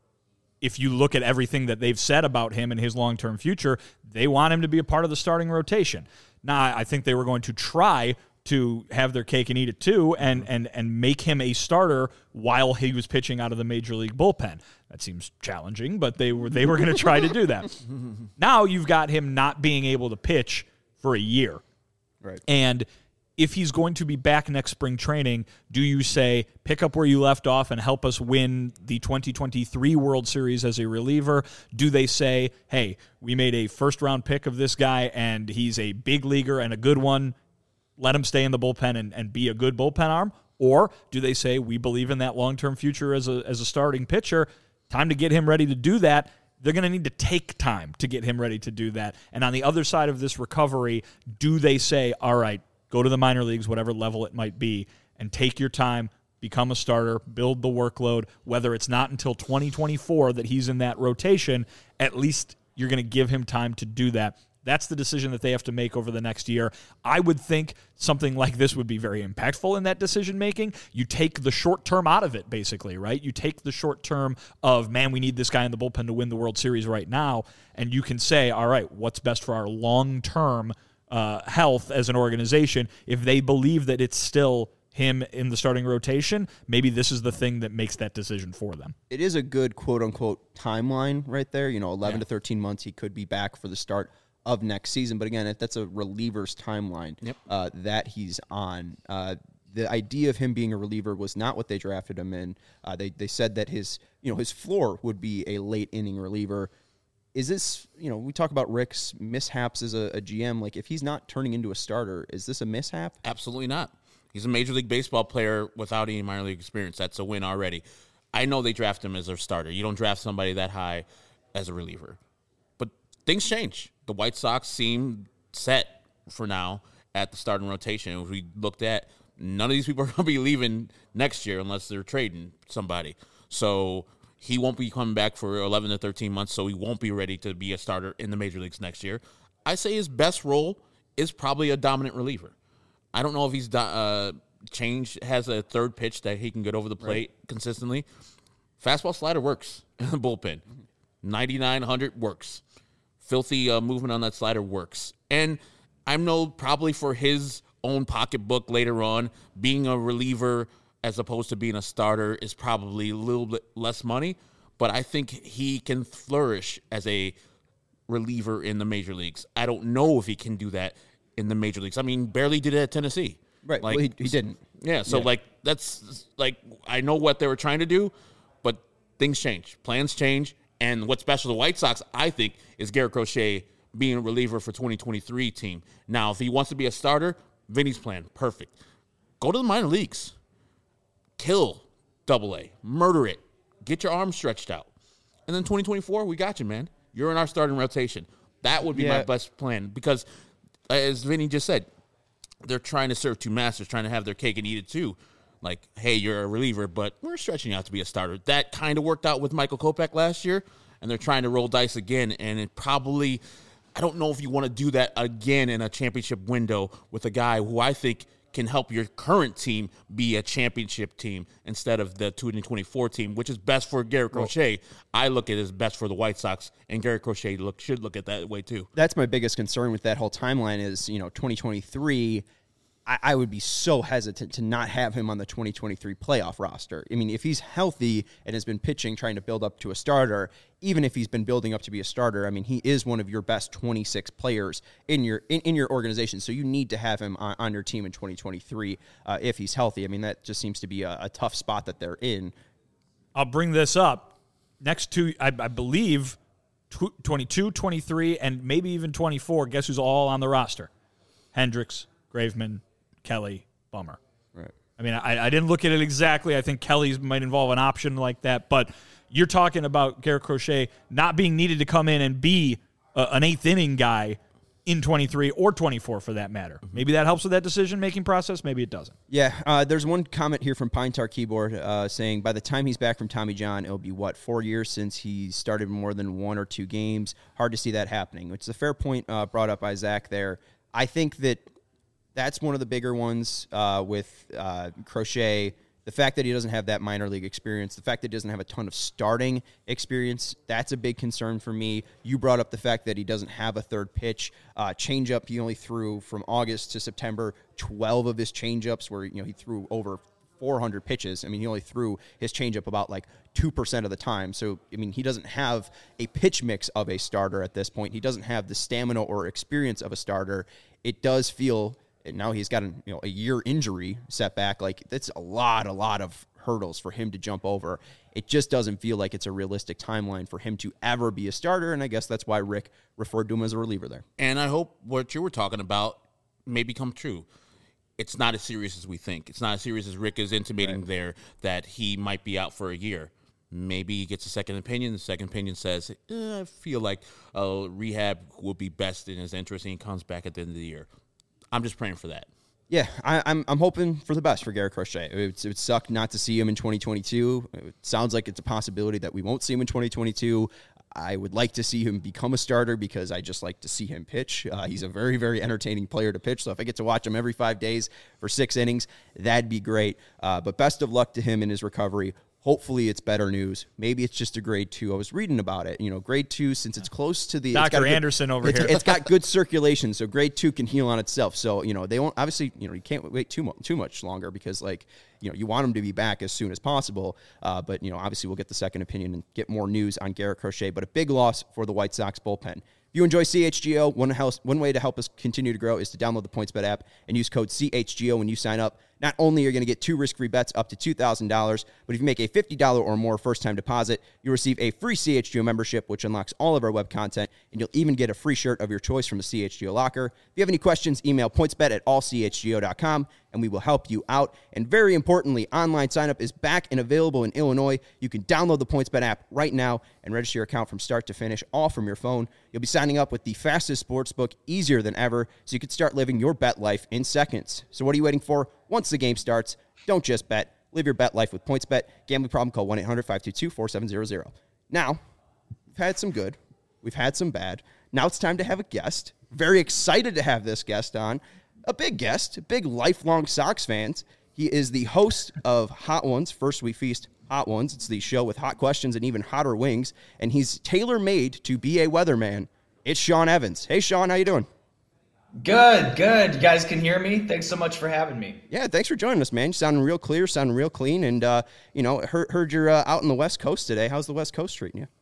if you look at everything that they've said about him and his long-term future, they want him to be a part of the starting rotation. Now, I think they were going to try to have their cake and eat it too, and and and make him a starter while he was pitching out of the major league bullpen. That seems challenging, but they were they were going to try to do that. Now you've got him not being able to pitch for a year, right? And if he's going to be back next spring training, do you say, pick up where you left off and help us win the twenty twenty-three World Series as a reliever? Do they say, hey, we made a first-round pick of this guy, and he's a big leaguer and a good one, let him stay in the bullpen and, and be a good bullpen arm? Or do they say, we believe in that long-term future as a, as a starting pitcher, time to get him ready to do that? They're going to need to take time to get him ready to do that. And on the other side of this recovery, do they say, all right, go to the minor leagues, whatever level it might be, and take your time, become a starter, build the workload. Whether it's not until twenty twenty-four that he's in that rotation, at least you're going to give him time to do that. That's the decision that they have to make over the next year. I would think something like this would be very impactful in that decision-making. You take the short term out of it, basically, right? You take the short term of, man, we need this guy in the bullpen to win the World Series right now, and you can say, all right, what's best for our long-term Uh, health as an organization? If they believe that it's still him in the starting rotation, maybe this is the thing that makes that decision for them. It is a good quote-unquote timeline right there. You know, eleven yeah. to thirteen months, he could be back for the start of next season. But again, if that's a reliever's timeline yep. uh, that he's on. Uh, the idea of him being a reliever was not what they drafted him in. Uh, they they said that his you know his floor would be a late inning reliever. Is this, you know, we talk about Rick's mishaps as a, a G M. Like, if he's not turning into a starter, is this a mishap? Absolutely not. He's a Major League Baseball player without any minor league experience. That's a win already. I know they draft him as a starter. You don't draft somebody that high as a reliever. But things change. The White Sox seem set for now at the starting rotation. If we looked at, none of these people are going to be leaving next year unless they're trading somebody. So he won't be coming back for eleven to thirteen months, so he won't be ready to be a starter in the major leagues next year. I say his best role is probably a dominant reliever. I don't know if he's uh, changed, has a third pitch that he can get over the plate right. consistently. Fastball slider works in the bullpen. ninety-nine hundred works. Filthy uh, movement on that slider works. And I know probably for his own pocketbook later on, being a reliever as opposed to being a starter is probably a little bit less money, but I think he can flourish as a reliever in the major leagues. I don't know if he can do that in the major leagues. I mean, barely did it at Tennessee. Right, like, well, he, he didn't. Yeah, so, yeah. like, that's, like, I know what they were trying to do, but things change. Plans change, and what's special to the White Sox, I think, is Garrett Crochet being a reliever for twenty twenty-three team. Now, if he wants to be a starter, Vinny's plan, perfect. Go to the minor leagues. Kill double A. Murder it. Get your arms stretched out. And then twenty twenty-four, we got you, man. You're in our starting rotation. That would be yeah. my best plan because, as Vinny just said, they're trying to serve two masters, trying to have their cake and eat it too. Like, hey, you're a reliever, but we're stretching you out to be a starter. That kind of worked out with Michael Kopech last year, and they're trying to roll dice again. And it probably, I don't know if you want to do that again in a championship window with a guy who I think can help your current team be a championship team instead of the twenty twenty-four team, which is best for Garrett Crochet. I look at it as best for the White Sox, and Garrett Crochet look, should look at that way too. That's my biggest concern with that whole timeline is, you know, twenty twenty-three, I, I would be so hesitant to not have him on the twenty twenty-three playoff roster. I mean, if he's healthy and has been pitching, trying to build up to a starter, even if he's been building up to be a starter, I mean, he is one of your best twenty-six players in your in, in your organization. So you need to have him on, on your team in twenty twenty-three uh, if he's healthy. I mean, that just seems to be a, a tough spot that they're in. I'll bring this up. Next two, I, I believe, twenty-two, twenty-three, and maybe even twenty-four. Guess who's all on the roster? Hendricks, Graveman, Kelly, Bummer. Right. I mean, I, I didn't look at it exactly. I think Kelly's might involve an option like that, but you're talking about Garrett Crochet not being needed to come in and be a, an eighth inning guy in twenty-three or twenty-four for that matter. Mm-hmm. Maybe that helps with that decision-making process. Maybe it doesn't. Yeah, uh, there's one comment here from Pine Tar Keyboard uh, saying by the time he's back from Tommy John, it'll be, what, four years since he started more than one or two games. Hard to see that happening, which is a fair point uh, brought up by Zach there. I think that that's one of the bigger ones uh, with uh, Crochet. The fact that he doesn't have that minor league experience, the fact that he doesn't have a ton of starting experience, that's a big concern for me. You brought up the fact that he doesn't have a third pitch. Uh, changeup, he only threw from August to September twelve of his changeups where, you know, he threw over four hundred pitches. I mean, he only threw his changeup about like two percent of the time. So, I mean, he doesn't have a pitch mix of a starter at this point. He doesn't have the stamina or experience of a starter. It does feel... And now he's got an, you know, a year injury setback. Like, that's a lot, a lot of hurdles for him to jump over. It just doesn't feel like it's a realistic timeline for him to ever be a starter, and I guess that's why Rick referred to him as a reliever there. And I hope what you were talking about may become true. It's not as serious as we think. It's not as serious as Rick is intimating right. there that he might be out for a year. Maybe he gets a second opinion. The second opinion says, eh, I feel like uh, rehab would be best in his interest, and he comes back at the end of the year. I'm just praying for that. Yeah, I, I'm I'm hoping for the best for Garrett Crochet. It would, it would suck not to see him in twenty twenty-two. It sounds like it's a possibility that we won't see him in twenty twenty-two. I would like to see him become a starter because I just like to see him pitch. Uh, he's a very, very entertaining player to pitch. So if I get to watch him every five days for six innings, that'd be great. Uh, but best of luck to him in his recovery. Hopefully it's better news. Maybe it's just a grade two. I was reading about it. You know, grade two, since it's close to the... Doctor Anderson good, over it's, here. It's got good circulation, so grade two can heal on itself. So, you know, they won't... Obviously, you know, you can't wait too, mo- too much longer because, like, you know, you want him to be back as soon as possible. Uh, but, you know, obviously we'll get the second opinion and get more news on Garrett Crochet. But a big loss for the White Sox bullpen. If you enjoy C H G O, one, house, one way to help us continue to grow is to download the PointsBet app and use code C H G O when you sign up. Not only are you going to get two risk-free bets up to two thousand dollars, but if you make a fifty dollars or more first-time deposit, you'll receive a free C H G O membership, which unlocks all of our web content, and you'll even get a free shirt of your choice from the C H G O locker. If you have any questions, email pointsbet at all c h g o dot com, and we will help you out. And very importantly, online sign-up is back and available in Illinois. You can download the PointsBet app right now and register your account from start to finish, all from your phone. You'll be signing up with the fastest sportsbook, easier than ever, so you can start living your bet life in seconds. So what are you waiting for? Once the game starts, don't just bet. Live your bet life with PointsBet. Gambling problem, call one eight hundred five two two four seven zero zero. Now, we've had some good. We've had some bad. Now it's time to have a guest. Very excited to have this guest on. A big guest, big lifelong Sox fans. He is the host of Hot Ones, First We Feast Hot Ones. It's the show with hot questions and even hotter wings. And he's tailor-made to be a weatherman. It's Sean Evans. Hey, Sean, how you doing? Good, good. You guys can hear me? Thanks so much for having me. Yeah, thanks for joining us, man. You sounding real clear, sounding real clean. And, uh, you know, heard, heard you're uh, out on the West Coast today. How's the West Coast treating you?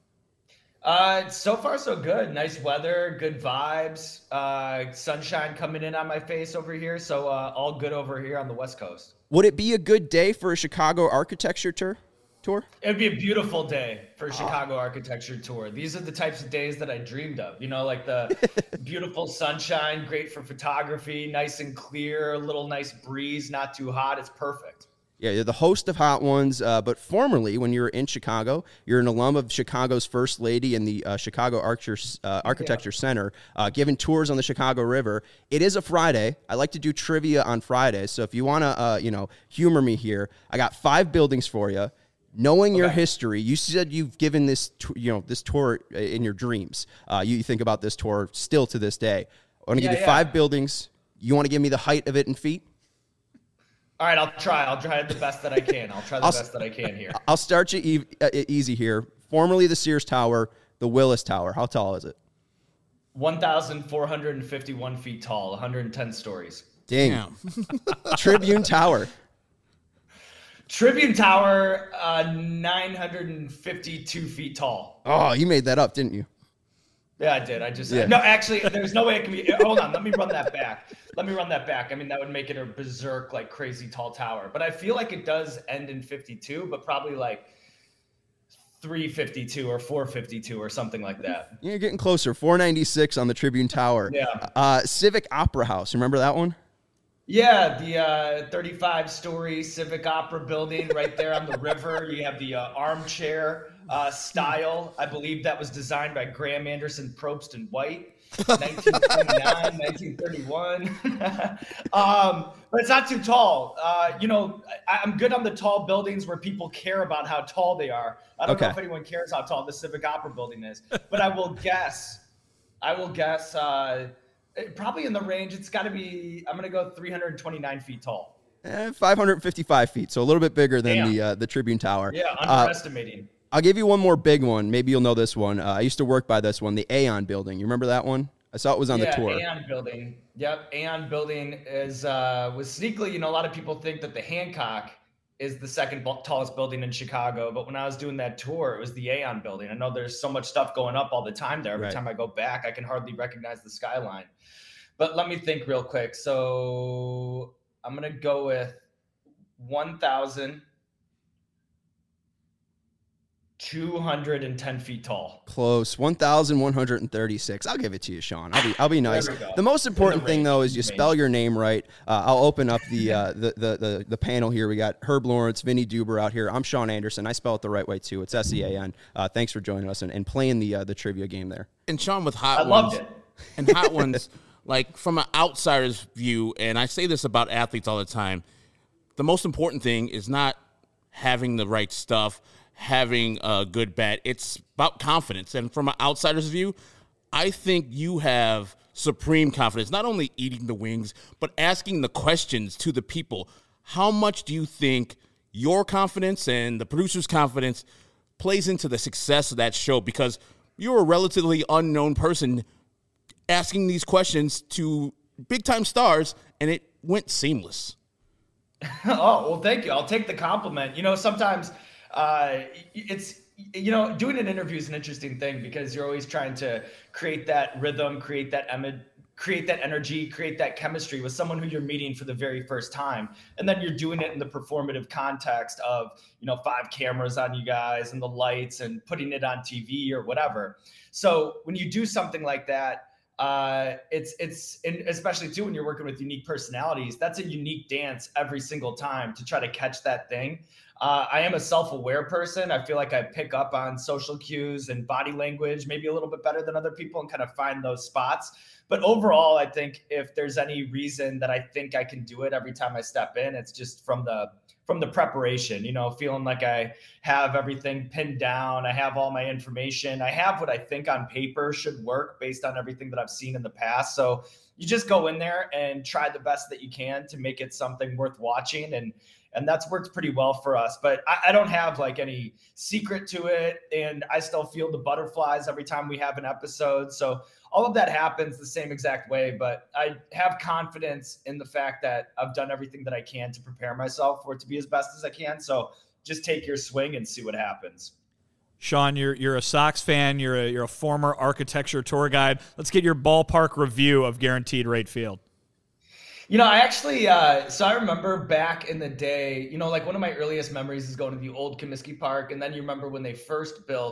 Uh, so far, so good. Nice weather, good vibes, uh, sunshine coming in on my face over here. So uh, all good over here on the West Coast. Would it be a good day for a Chicago architecture tour? Tour? It would be a beautiful day for a Chicago oh. architecture tour. These are the types of days that I dreamed of, you know, like the beautiful sunshine, great for photography, nice and clear, a little nice breeze, not too hot. It's perfect. Yeah, you're the host of Hot Ones, uh, but formerly, when you were in Chicago, you're an alum of Chicago's First Lady and the uh, Chicago Archer, uh, Architecture yeah. Center, uh, giving tours on the Chicago River. It is a Friday. I like to do trivia on Fridays, so if you want to, uh, you know, humor me here, I got five buildings for you. Knowing okay. your history, you said you've given this, t- you know, this tour in your dreams. Uh, you think about this tour still to this day. I want to yeah, give you yeah. five buildings. You want to give me the height of it in feet? All right, I'll try. I'll try the best that I can. I'll try the I'll, best that I can here. I'll start you e- uh, easy here. Formerly the Sears Tower, the Willis Tower. How tall is it? one thousand four hundred fifty-one feet tall, one hundred ten stories. Dang. Tribune Tower. Tribune Tower, uh, nine hundred fifty-two feet tall. Oh, you made that up, didn't you? Yeah, I did. I just yeah. no. Actually, there's no way it can be. Hold on, let me run that back. Let me run that back. I mean, that would make it a berserk, like crazy tall tower. But I feel like it does end in fifty-two, but probably like three fifty-two or four fifty-two or something like that. You're getting closer. four ninety-six on the Tribune Tower. Yeah. Uh, Civic Opera House. Remember that one? Yeah, the uh, thirty-five story Civic Opera building right there on the river. You have the uh, armchair uh, style. I believe that was designed by Graham Anderson, Probst, and White, nineteen twenty-nine, nineteen thirty-one. um, but it's not too tall. Uh, you know, I, I'm good on the tall buildings where people care about how tall they are. I don't okay. know if anyone cares how tall the Civic Opera building is, but I will guess. I will guess. Uh, Probably in the range. It's got to be. I'm going to go three hundred twenty-nine feet tall. Eh, five hundred fifty-five feet, so a little bit bigger than Damn. the uh, the Tribune Tower. Yeah, underestimating. Uh, I'll give you one more big one. Maybe you'll know this one. Uh, I used to work by this one, the Aon Building. You remember that one? I saw it was on yeah, the tour. Aon Building. Yep, Aon Building is uh, was sneakily. You know, a lot of people think that the Hancock is the second tallest building in Chicago, but when I was doing that tour, it was the Aon Building. I know there's so much stuff going up all the time there. Every right. time I go back, I can hardly recognize the skyline. But let me think real quick. So I'm going to go with one thousand two hundred ten feet tall. Close. one thousand one hundred thirty-six. I'll give it to you, Sean. I'll be I'll be nice. The most important thing, though, is you spell your name right. Uh, I'll open up the, uh, the, the the the panel here. We got Herb Lawrence, Vinny Duber out here. I'm Sean Anderson. I spell it the right way, too. It's S E A N. Uh, thanks for joining us and, and playing the uh, the trivia game there. And Sean, with Hot I Ones. loved it. And Hot Ones, like from an outsider's view, and I say this about athletes all the time, the most important thing is not having the right stuff, having a good bet. It's about confidence. And from an outsider's view, I think you have supreme confidence, not only eating the wings, but asking the questions to the people. How much do you think your confidence and the producer's confidence plays into the success of that show? Because you're a relatively unknown person asking these questions to big-time stars, and it went seamless. Oh, well, thank you. I'll take the compliment. You know, sometimes uh, it's, you know, doing an interview is an interesting thing because you're always trying to create that rhythm, create that em- create that energy, create that chemistry with someone who you're meeting for the very first time. And then you're doing it in the performative context of, you know, five cameras on you guys and the lights and putting it on T V or whatever. So when you do something like that, Uh, it's, it's, and especially too, when you're working with unique personalities, that's a unique dance every single time to try to catch that thing. Uh, I am a self-aware person. I feel like I pick up on social cues and body language, maybe a little bit better than other people and kind of find those spots. But overall, I think if there's any reason that I think I can do it every time I step in, it's just from the, from the preparation, you know, feeling like I have everything pinned down. I have all my information. I have what I think on paper should work based on everything that I've seen in the past. So you just go in there and try the best that you can to make it something worth watching. And, and that's worked pretty well for us, but I, I don't have like any secret to it. And I still feel the butterflies every time we have an episode. So all of that happens the same exact way, but I have confidence in the fact that I've done everything that I can to prepare myself for it to be as best as I can. So just take your swing and see what happens. Sean, you're you're a Sox fan. You're a you're a former architecture tour guide. Let's get your ballpark review of Guaranteed Rate Field. You know, I actually, uh, so I remember back in the day, you know, like one of my earliest memories is going to the old Comiskey Park. And then you remember when they first built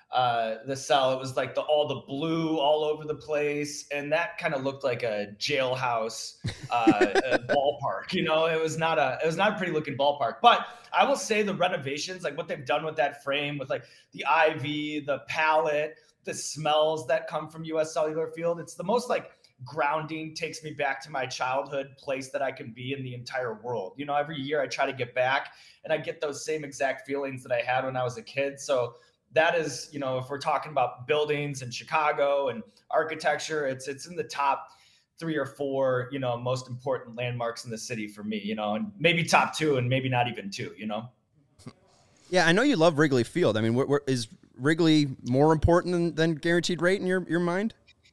uh, the cell. It was like the all the blue all over the place, and that kind of looked like a jailhouse uh, a ballpark. You know, it was not a it was not a pretty looking ballpark. But I will say the renovations, like what they've done with that frame, with like the ivy, the palette, the smells that come from U S Cellular Field, it's the most like grounding, takes me back to my childhood place that I can be in the entire world. You know, every year I try to get back and I get those same exact feelings that I had when I was a kid. So that is, you know, if we're talking about buildings in Chicago and architecture, it's it's in the top three or four, you know, most important landmarks in the city for me, you know, and maybe top two and maybe not even two, you know? Yeah, I know you love Wrigley Field. I mean, wh- wh- is Wrigley more important than, than Guaranteed Rate in your, your mind?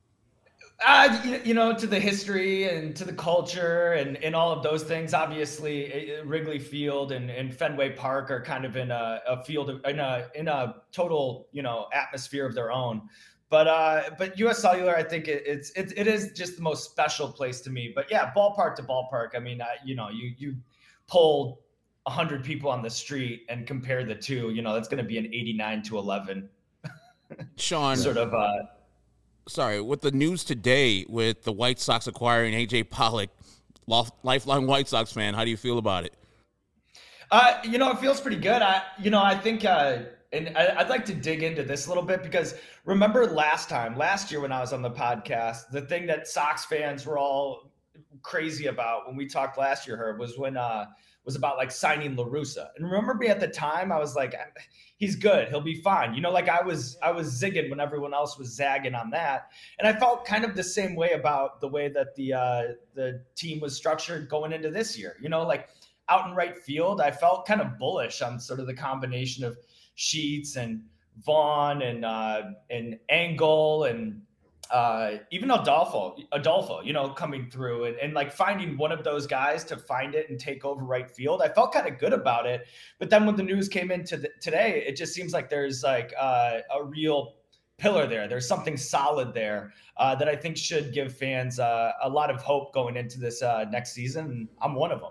Uh, you, you know, to the history and to the culture and, and all of those things, obviously Wrigley Field and, and Fenway Park are kind of in a, a field of, in a, in a total, you know, atmosphere of their own. But, uh, but U S Cellular, I think it, it's, it, it is just the most special place to me, but yeah, ballpark to ballpark. I mean, I, you know, you, you pull a hundred people on the street and compare the two, you know, that's going to be an eighty-nine to eleven. Sean, sort of, uh, sorry, with the news today with the White Sox acquiring A J Pollock, lifelong White Sox fan, how do you feel about it? Uh, you know, it feels pretty good. I, you know, I think, uh, and I, I'd like to dig into this a little bit because remember last time, last year when I was on the podcast, the thing that Sox fans were all crazy about when we talked last year, Herb, was when, uh, was about like signing La Russa. And remember me at the time, I was like, he's good. He'll be fine. You know, like I was, I was zigging when everyone else was zagging on that. And I felt kind of the same way about the way that the, uh, the team was structured going into this year, you know, like out in right field, I felt kind of bullish on sort of the combination of Sheets and Vaughn and, uh, and Engel and, uh, even Adolfo, Adolfo, you know, coming through and, and like finding one of those guys to find it and take over right field. I felt kind of good about it. But then when the news came in to the, today, it just seems like there's like uh, a real pillar there. There's something solid there uh, that I think should give fans uh, a lot of hope going into this uh, next season. I'm one of them.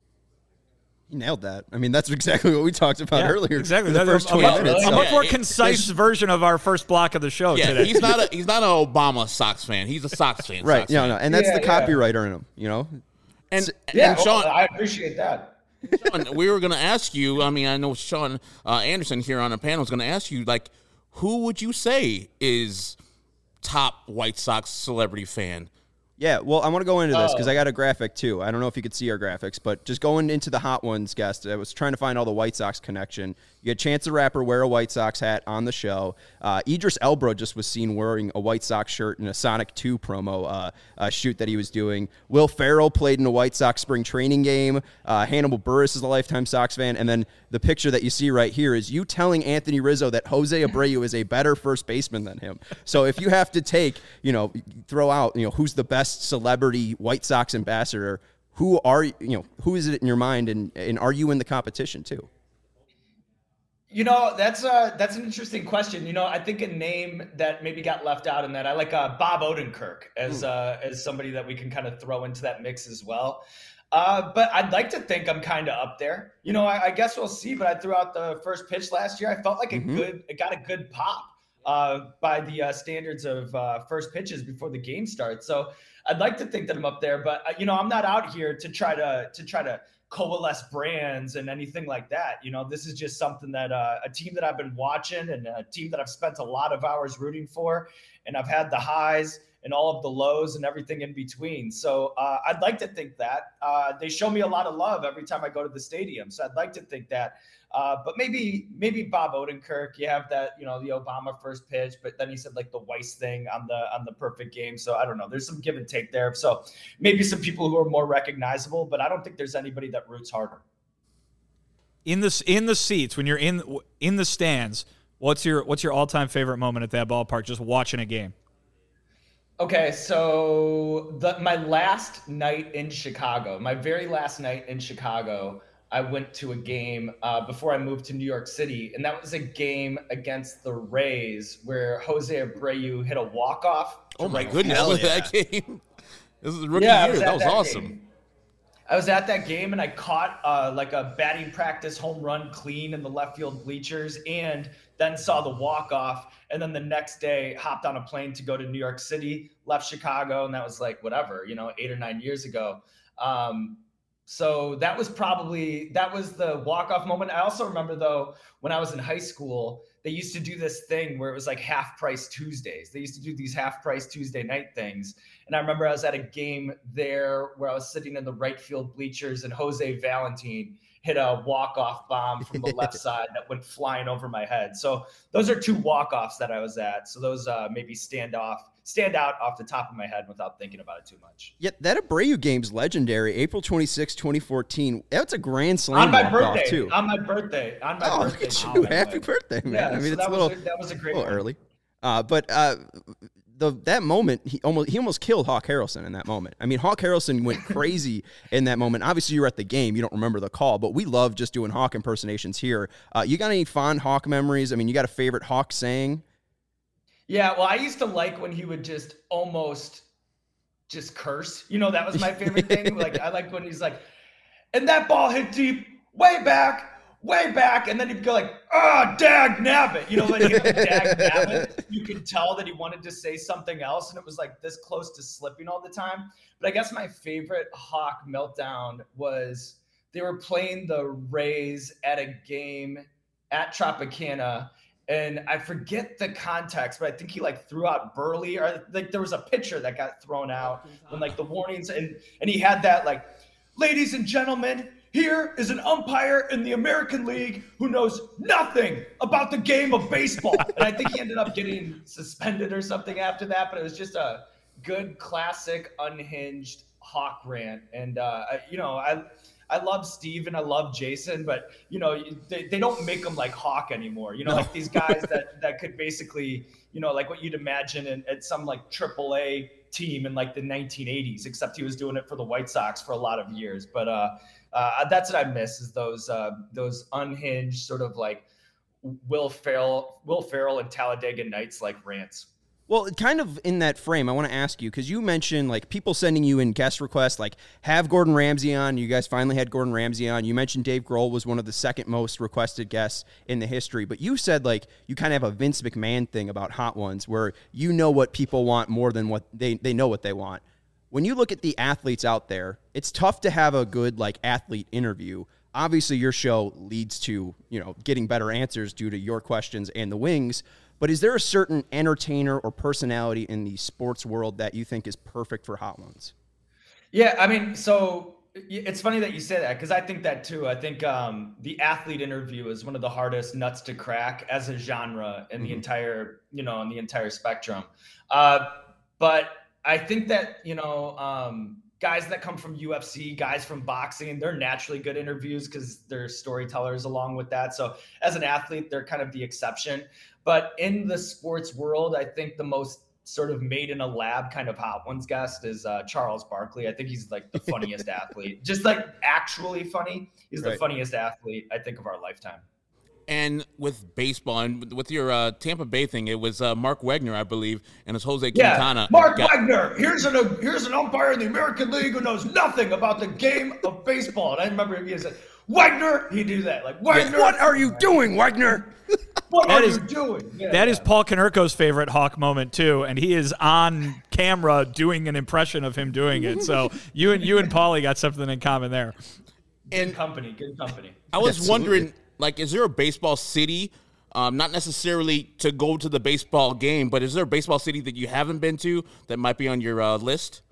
You nailed that. I mean, that's exactly what we talked about yeah, earlier. Exactly. The that's first a, twenty a, minutes. a So. much more concise version of our first block of the show yeah, today. He's not a he's not an Obama Sox fan. He's a Sox fan. Right. Sox Yeah, fan. no, and that's yeah, the yeah. copywriter in him, you know? And, Yeah, and Sean, well, I appreciate that. Sean, we were going to ask you, I mean, I know Sean uh, Anderson here on the panel is going to ask you, like, who would you say is top White Sox celebrity fan? Yeah, well, I want to go into this because Oh. I got a graphic, too. I don't know if you could see our graphics, but just going into the Hot Ones guest, I was trying to find all the White Sox connection. You had Chance the Rapper wear a White Sox hat on the show. Uh, Idris Elba just was seen wearing a White Sox shirt in a Sonic two promo uh, uh, shoot that he was doing. Will Ferrell played in a White Sox spring training game. Uh, Hannibal Buress is a lifetime Sox fan. And then the picture that you see right here is you telling Anthony Rizzo that Jose Abreu is a better first baseman than him. So if you have to take, you know, throw out, you know, who's the best celebrity White Sox ambassador, who are, you know, who is it in your mind, and, and are you in the competition too? You know, that's a, that's an interesting question. You know, I think a name that maybe got left out in that, I like uh, Bob Odenkirk as uh, as somebody that we can kind of throw into that mix as well. Uh, but I'd like to think I'm kind of up there. You know, I, I guess we'll see. But I threw out the first pitch last year. I felt like a Mm-hmm. good, it got a good pop uh, by the uh, standards of uh, first pitches before the game starts. So I'd like to think that I'm up there. But uh, you know, I'm not out here to try to to try to coalesce brands and anything like that. You know, this is just something that uh, a team that I've been watching and a team that I've spent a lot of hours rooting for, and I've had the highs and all of the lows and everything in between. So uh, I'd like to think that uh, they show me a lot of love every time I go to the stadium. So I'd like to think that, uh, but maybe, maybe Bob Odenkirk, you have that, you know, the Obama first pitch, but then he said like the Weiss thing on the, on the perfect game. So I don't know, there's some give and take there. So maybe some people who are more recognizable, but I don't think there's anybody that roots harder. In the in the seats when you're in in the stands, what's your what's your all time favorite moment at that ballpark? Just watching a game. Okay, so the my last night in Chicago, my very last night in Chicago, I went to a game uh, before I moved to New York City, and that was a game against the Rays where Jose Abreu hit a walk-off. Oh, my right goodness, Hell was yeah. that game? This is the rookie Yeah, I year. was That at was that awesome. game. I was at that game and I caught uh, like a batting practice home run clean in the left field bleachers, and then saw the walk off. And then the next day hopped on a plane to go to New York City, left Chicago. And that was like, whatever, you know, eight or nine years ago. Um, so that was probably, that was the walk-off moment. I also remember though, when I was in high school, they used to do this thing where it was like half price Tuesdays. They used to do these half price Tuesday night things. And I remember I was at a game there where I was sitting in the right field bleachers and Jose Valentin hit a walk-off bomb from the left side that went flying over my head. So those are two walk-offs that I was at. So those uh, maybe stand off, stand out off the top of my head without thinking about it too much. Yeah, that Abreu game's legendary. April twenty-sixth, twenty fourteen. That's a grand slam on my birthday. Too. On my birthday. On my oh, birthday. Look at you. Happy birthday, man. Yeah, I mean, so it's that a little, was a, that was a great a little one. early. Uh, but uh, the that moment, he almost he almost killed Hawk Harrelson in that moment. I mean, Hawk Harrelson went crazy in that moment. Obviously, you were at the game. You don't remember the call, but we love just doing Hawk impersonations here. Uh, you got any fond Hawk memories? I mean, you got a favorite Hawk saying? Yeah, well, I used to like when he would just almost just curse. You know, that was my favorite thing. Like, I liked when he's like, and that ball hit deep, way back, way back. And then he'd go like, ah, oh, dag nabbit. You know, when he hit dag nabbit, you could tell that he wanted to say something else. And it was like this close to slipping all the time. But I guess my favorite Hawk meltdown was they were playing the Rays at a game at Tropicana. And I forget the context, but I think he like threw out Burley, or like there was a pitcher that got thrown out when like the warnings, and and he had that like, ladies and gentlemen, here is an umpire in the American League who knows nothing about the game of baseball. And I think he ended up getting suspended or something after that, but it was just a good classic unhinged Hawk rant. And uh, you know, I. I love Steve and I love Jason, but you know, they, they don't make them like Hawk anymore. You know, no. Like these guys that, that could basically, you know, like what you'd imagine in, at some like triple A team in like the nineteen eighties, except he was doing it for the White Sox for a lot of years. But uh, uh, that's what I miss is those uh, those unhinged sort of like Will Ferrell, Will Ferrell and Talladega Nights like rants. Well, kind of in that frame, I want to ask you, because you mentioned like people sending you in guest requests, like have Gordon Ramsay on. You guys finally had Gordon Ramsay on. You mentioned Dave Grohl was one of the second most requested guests in the history. But you said like you kind of have a Vince McMahon thing about Hot Ones where you know what people want more than what they, they know what they want. When you look at the athletes out there, it's tough to have a good like athlete interview. Obviously, your show leads to, you know, getting better answers due to your questions and the wings. But is there a certain entertainer or personality in the sports world that you think is perfect for Hot Ones? Yeah, I mean, so it's funny that you say that because I think that too. I think um, the athlete interview is one of the hardest nuts to crack as a genre in mm-hmm. the entire, you know, in the entire spectrum. Uh, but I think that, you know, um, guys that come from U F C, guys from boxing, they're naturally good interviews because they're storytellers along with that. So as an athlete, they're kind of the exception. But in the sports world, I think the most sort of made in a lab kind of Hot Ones guest is uh, Charles Barkley. I think he's like the funniest athlete, just like actually funny. He's right. the funniest athlete, I think, of our lifetime. And with baseball and with your uh, Tampa Bay thing, it was uh, Mark Wagner, I believe, and it's Jose yeah, Quintana. Mark got- Wagner. Here's an here's an umpire in the American League who knows nothing about the game of baseball. And I remember he said, Wagner, he'd do that. Like, Wagner. What are you doing, Wagner? What that are is, you doing? Yeah, that yeah. is Paul Konerko's favorite Hawk moment too, and he is on camera doing an impression of him doing it. So you and you and Paulie got something in common there. Good and company, good company. I was Absolutely. wondering, like, is there a baseball city? Um, not necessarily to go to the baseball game, but is there a baseball city that you haven't been to that might be on your uh, list?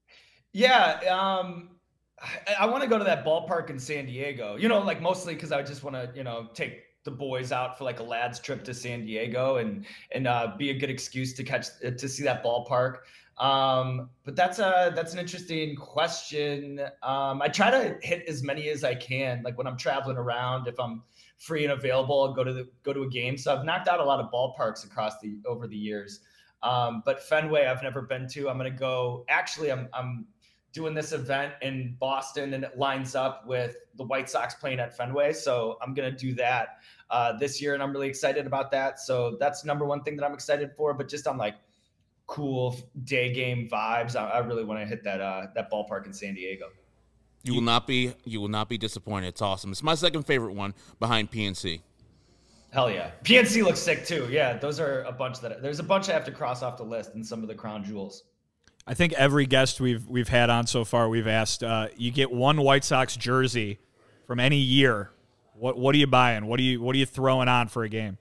Yeah, um, I, I want to go to that ballpark in San Diego. You know, like mostly because I just want to, you know, take the boys out for like a lads trip to San Diego and and uh, be a good excuse to catch to see that ballpark. Um, but that's a that's an interesting question. Um, I try to hit as many as I can. Like when I'm traveling around, if I'm free and available, I'll go to the go to a game. So I've knocked out a lot of ballparks across the over the years. Um, but Fenway, I've never been to. I'm gonna go. Actually, I'm I'm doing this event in Boston, and it lines up with the White Sox playing at Fenway. So I'm going to do that uh, this year, and I'm really excited about that. So that's number one thing that I'm excited for. But just on like cool day game vibes, I, I really want to hit that uh, that ballpark in San Diego. You will not be you will not be disappointed. It's awesome. It's my second favorite one behind P N C. Hell yeah. P N C looks sick too. Yeah, those are a bunch that there's a bunch I have to cross off the list and some of the crown jewels. I think every guest we've we've had on so far, we've asked, uh, you get one White Sox jersey from any year. What what are you buying? What are you what are you throwing on for a game?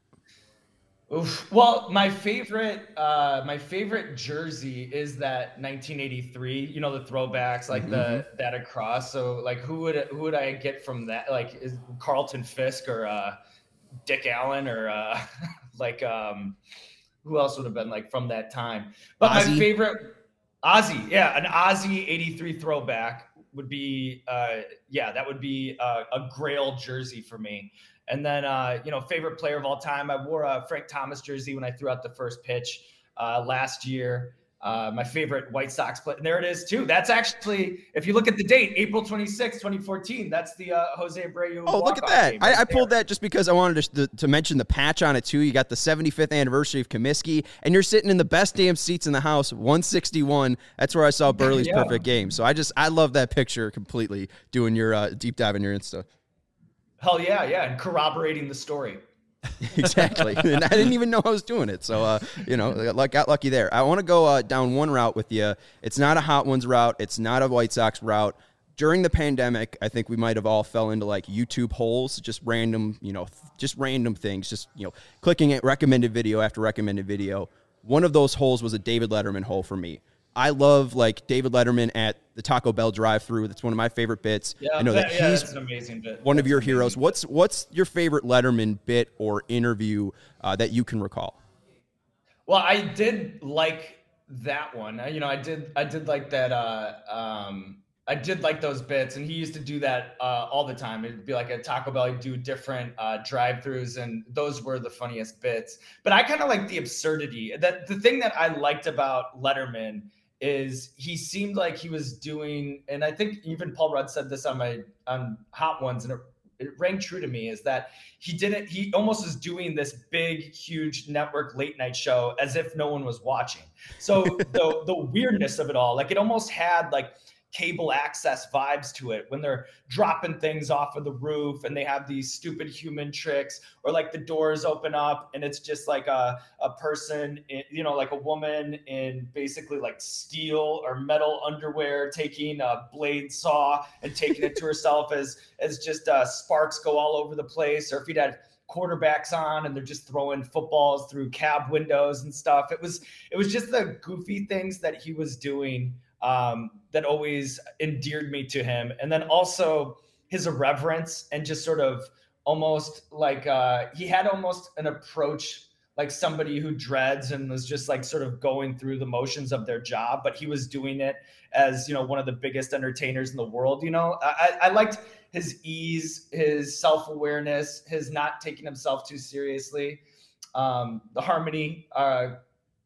Oof. Well, my favorite, uh, my favorite jersey is that nineteen eighty-three. You know, the throwbacks, like mm-hmm. the that across. So, like, who would who would I get from that? Like, is Carlton Fisk or uh, Dick Allen or uh, like um, who else would have been like from that time? But Ozzie. My favorite, Ozzie, yeah, an Ozzie eighty-three throwback would be, uh, yeah, that would be a, a Grail jersey for me. And then, uh, you know, favorite player of all time, I wore a Frank Thomas jersey when I threw out the first pitch uh, last year. Uh, my favorite White Sox player, and there it is too. That's actually, if you look at the date, April twenty-sixth, twenty fourteen, that's the uh, Jose Abreu. Oh, look at that. Right I, I pulled that just because I wanted to, to, to mention the patch on it too. You got the seventy-fifth anniversary of Comiskey, and you're sitting in the best damn seats in the house, one sixty-one. That's where I saw Burley's yeah. perfect game. So I just, I love that picture completely, doing your uh, deep dive in your Insta. Hell yeah, yeah, and corroborating the story. Exactly. And I didn't even know I was doing it. So, uh, you know, got lucky there. I want to go uh, down one route with you. It's not a Hot Ones route. It's not a White Sox route. During the pandemic, I think we might have all fell into like YouTube holes, just random, you know, just random things, just, you know, clicking at recommended video after recommended video. One of those holes was a David Letterman hole for me. I love like David Letterman at the Taco Bell drive-thru. That's one of my favorite bits. Yeah, I know that, that yeah, he's that's an amazing bit. One that's of your amazing. heroes. What's what's your favorite Letterman bit or interview uh, that you can recall? Well, I did like that one. You know, I did I did like that. Uh, um, I did like those bits, and he used to do that uh, all the time. It'd be like at Taco Bell, he'd do different uh, drive-thrus, and those were the funniest bits. But I kind of like the absurdity. That the thing that I liked about Letterman is he seemed like he was doing, and I think even Paul Rudd said this on my on Hot Ones, and it, it rang true to me, is that he didn't, he almost was doing this big, huge network late night show as if no one was watching. So the the weirdness of it all, like it almost had like cable access vibes to it when they're dropping things off of the roof and they have these stupid human tricks, or like the doors open up and it's just like a, a person, in, you know, like a woman in basically like steel or metal underwear taking a blade saw and taking it to herself as, as just uh, sparks go all over the place. Or if he'd had quarterbacks on and they're just throwing footballs through cab windows and stuff. It was, it was just the goofy things that he was doing Um, that always endeared me to him. And then also his irreverence and just sort of almost like uh, he had almost an approach like somebody who dreads and was just like sort of going through the motions of their job, but he was doing it as, you know, one of the biggest entertainers in the world. You know, I, I liked his ease, his self-awareness, his not taking himself too seriously. Um, the harmony, uh,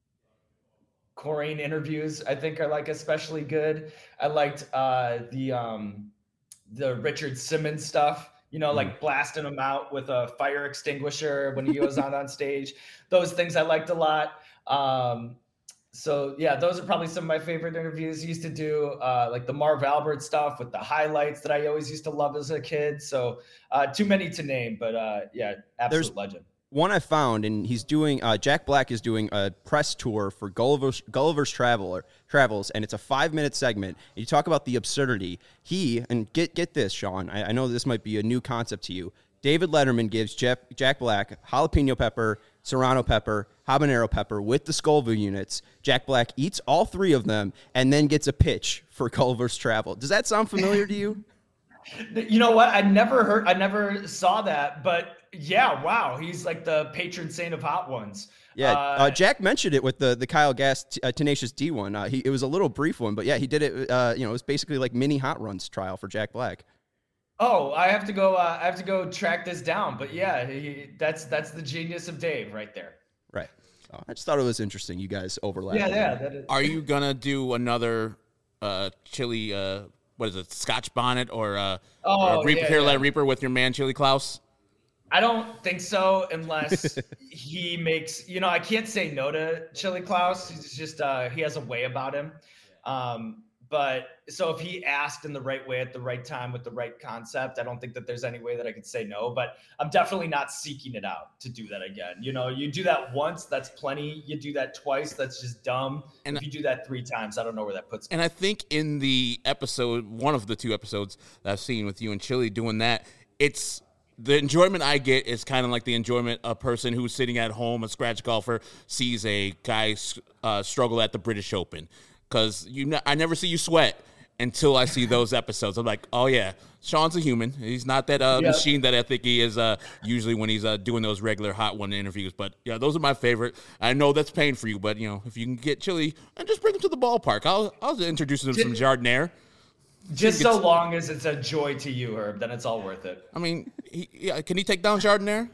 Corain interviews, I think, are like especially good. I liked uh, the um, the Richard Simmons stuff, you know, like blasting him out with a fire extinguisher when he goes out on stage. Those things I liked a lot. Um, so yeah, those are probably some of my favorite interviews. He used to do uh, like the Marv Albert stuff with the highlights that I always used to love as a kid. So uh, too many to name, but uh, yeah, absolute There's- legend. One I found, and he's doing, uh, Jack Black is doing a press tour for Gulliver's, Gulliver's Traveler, Travels, and it's a five-minute segment. You talk about the absurdity. He, and get get this, Sean, I, I know this might be a new concept to you. David Letterman gives Jeff, Jack Black jalapeno pepper, serrano pepper, habanero pepper with the Scoville units. Jack Black eats all three of them and then gets a pitch for Gulliver's Travel. Does that sound familiar to you? You know what? I never heard, I never saw that, but yeah, wow. He's like the patron saint of Hot Ones. Yeah. Uh, uh, Jack mentioned it with the, the Kyle Gass t- uh, Tenacious D one. Uh, he, it was a little brief one, but yeah, he did it. Uh, you know, it was basically like mini Hot Runs trial for Jack Black. Oh, I have to go, uh, I have to go track this down, but yeah, he, that's, that's the genius of Dave right there. Right. So I just thought it was interesting. You guys overlap. Yeah. Yeah. That is- Are you going to do another uh, chili, uh, what is it, Scotch bonnet or uh, oh, or Reaper, yeah, Carolina yeah. Reaper with your man Chili Klaus? I don't think so, unless he makes, you know, I can't say no to Chili Klaus. He's just, uh, he has a way about him. Um, but so if he asked in the right way at the right time with the right concept, I don't think that there's any way that I could say no, but I'm definitely not seeking it out to do that again. You know, you do that once, that's plenty. You do that twice, that's just dumb. And if you do that three times, I don't know where that puts me. And I think in the episode, one of the two episodes that I've seen with you and Chili doing that, it's the enjoyment I get is kind of like the enjoyment a person who's sitting at home, a scratch golfer, sees a guy uh, struggle at the British Open. Because you, ne- I never see you sweat until I see those episodes. I'm like, oh, yeah, Sean's a human. He's not that uh, yep. machine that I think he is uh, usually when he's uh, doing those regular Hot One interviews. But, yeah, those are my favorite. I know that's pain for you, but, you know, if you can get Chili, and just bring him to the ballpark. I'll, I'll introduce him to some Jardinier. Just so long as it's a joy to you, Herb, then it's all worth it. I mean, he, yeah, can he take down Jardinier?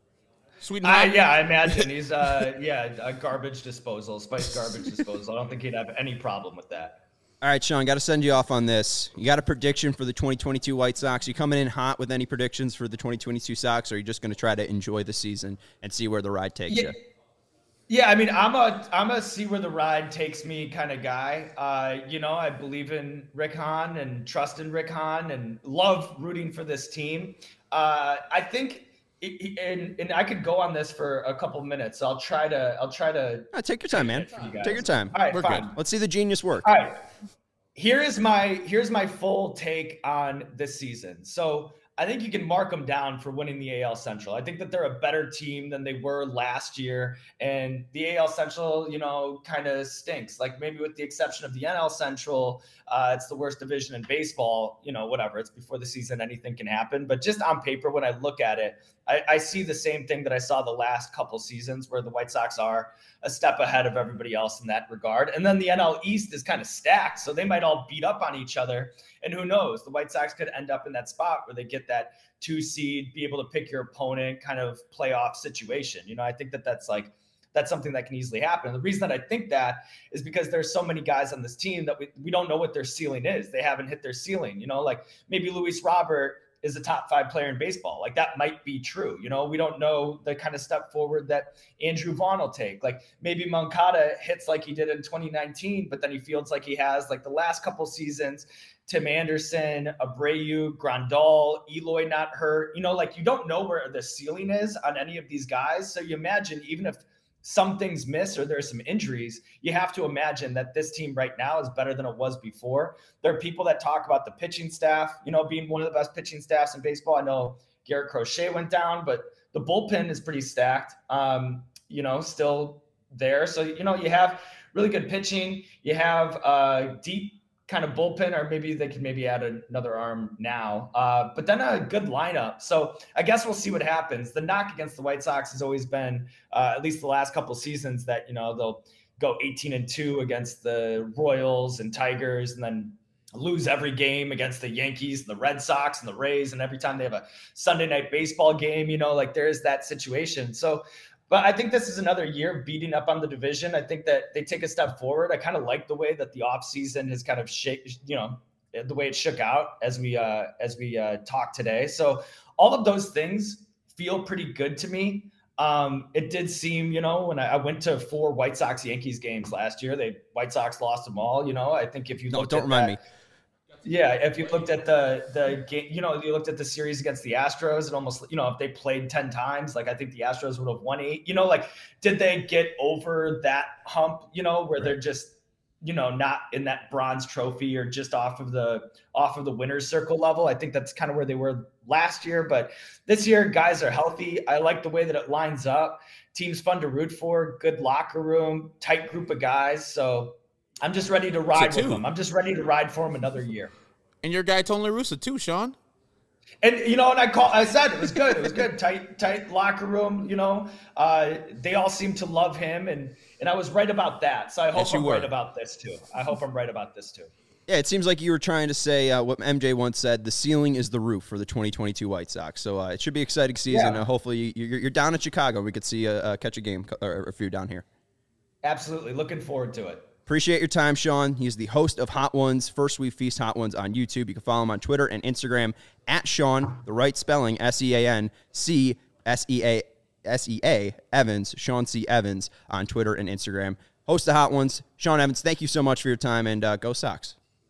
Sweet uh, yeah, I imagine he's uh yeah a garbage disposal, spice garbage disposal. I don't think he'd have any problem with that. All right, Sean, got to send you off on this. You got a prediction for the twenty twenty-two White Sox? You coming in hot with any predictions for the twenty twenty-two Sox, or are you just going to try to enjoy the season and see where the ride takes yeah. you? Yeah, I mean, I'm a I'm a see where the ride takes me kind of guy. Uh, you know, I believe in Rick Hahn and trust in Rick Hahn and love rooting for this team. Uh, I think. It, and, and I could go on this for a couple minutes. So I'll try to. I'll try to. Oh, take your time, man. You take your time. All right, We're fine. good. Let's see the genius work. All right. Here is my here's my full take on this season. So I think you can mark them down for winning the A L Central. I think that they're a better team than they were last year, and the A L Central, you know, kind of stinks. Like maybe with the exception of the N L Central, uh, it's the worst division in baseball. You know, whatever. It's before the season, anything can happen. But just on paper, when I look at it, I, I see the same thing that I saw the last couple seasons, where the White Sox are a step ahead of everybody else in that regard. And then the N L East is kind of stacked, so they might all beat up on each other. And who knows, the White Sox could end up in that spot where they get that two seed, be able to pick your opponent, kind of playoff situation. You know, I think that that's like, that's something that can easily happen. And the reason that I think that is because there's so many guys on this team that we, we don't know what their ceiling is. They haven't hit their ceiling, you know, like maybe Luis Robert is a top five player in baseball. Like that might be true. You know, we don't know the kind of step forward that Andrew Vaughn will take. Like maybe Moncada hits like he did in twenty nineteen, but then he feels like he has like the last couple seasons. Tim Anderson, Abreu, Grandal, Eloy not hurt. You know, like you don't know where the ceiling is on any of these guys. So you imagine even if some things miss or there's some injuries, you have to imagine that this team right now is better than it was before. There are people that talk about the pitching staff, you know, being one of the best pitching staffs in baseball. I know Garrett Crochet went down, but the bullpen is pretty stacked, um, you know, still there. So, you know, you have really good pitching. You have a deep kind of bullpen, or maybe they could maybe add another arm now, uh, but then a good lineup. So I guess we'll see what happens. The knock against the White Sox has always been, uh, at least the last couple of seasons, that, you know, they'll go eighteen and two against the Royals and Tigers, and then lose every game against the Yankees and the Red Sox and the Rays. And every time they have a Sunday night baseball game, you know, like there is that situation. So, but I think this is another year beating up on the division. I think that they take a step forward. I kind of like the way that the offseason has kind of shaped, you know, the way it shook out as we uh, as we uh, talk today. So all of those things feel pretty good to me. Um, it did seem, you know, when I, I went to four White Sox Yankees games last year, they White Sox lost them all. You know, I think if you no, looked don't at remind that, me. Yeah, if you looked at the the game, you know, you looked at the series against the Astros, and almost, you know, if they played ten times, like I think the Astros would have won eight. You know, like did they get over that hump? You know, where right. they're just, you know, not in that bronze trophy or just off of the off of the winner's circle level. I think that's kind of where they were last year, but this year guys are healthy. I like the way that it lines up. Team's fun to root for. Good locker room, tight group of guys. So I'm just ready to ride with them. I'm just ready to ride for them another year. And your guy Tony La Russa too, Sean. And you know, and I call, I said it was good. It was good. Tight, tight locker room. You know, uh, they all seem to love him, and and I was right about that. So I hope yes, I'm were. right about this too. I hope I'm right about this too. Yeah, it seems like you were trying to say uh, what M J once said: the ceiling is the roof for the twenty twenty-two White Sox. So uh, it should be an exciting season. Yeah. Uh, hopefully, you're, you're down in Chicago. We could see a, uh, catch a game or a few down here. Absolutely, looking forward to it. Appreciate your time, Sean. He's the host of Hot Ones, First We Feast Hot Ones on YouTube. You can follow him on Twitter and Instagram at Sean, the right spelling, S E A N C S E A S E A Evans, Sean C. Evans on Twitter and Instagram. Host of Hot Ones, Sean Evans, thank you so much for your time, and uh, go Sox.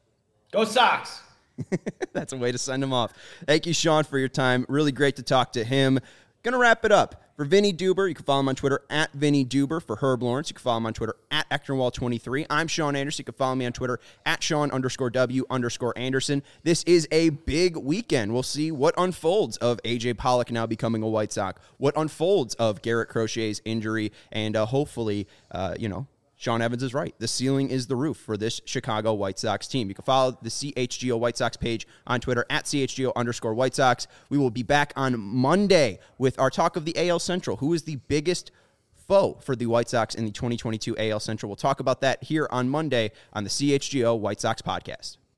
Go Sox. That's a way to send him off. Thank you, Sean, for your time. Really great to talk to him. Going to wrap it up. For Vinny Duber, you can follow him on Twitter at Vinny Duber. For Herb Lawrence, you can follow him on Twitter at Ectorwall twenty-three. I'm Sean Anderson. You can follow me on Twitter at Sean underscore W underscore Anderson. This is a big weekend. We'll see what unfolds of A J Pollock now becoming a White Sox, what unfolds of Garrett Crochet's injury, and uh, hopefully, uh, you know, Sean Evans is right. The ceiling is the roof for this Chicago White Sox team. You can follow the C H G O White Sox page on Twitter at C H G O underscore White Sox. We will be back on Monday with our talk of the A L Central. Who is the biggest foe for the White Sox in the twenty twenty-two A L Central? We'll talk about that here on Monday on the C H G O White Sox podcast.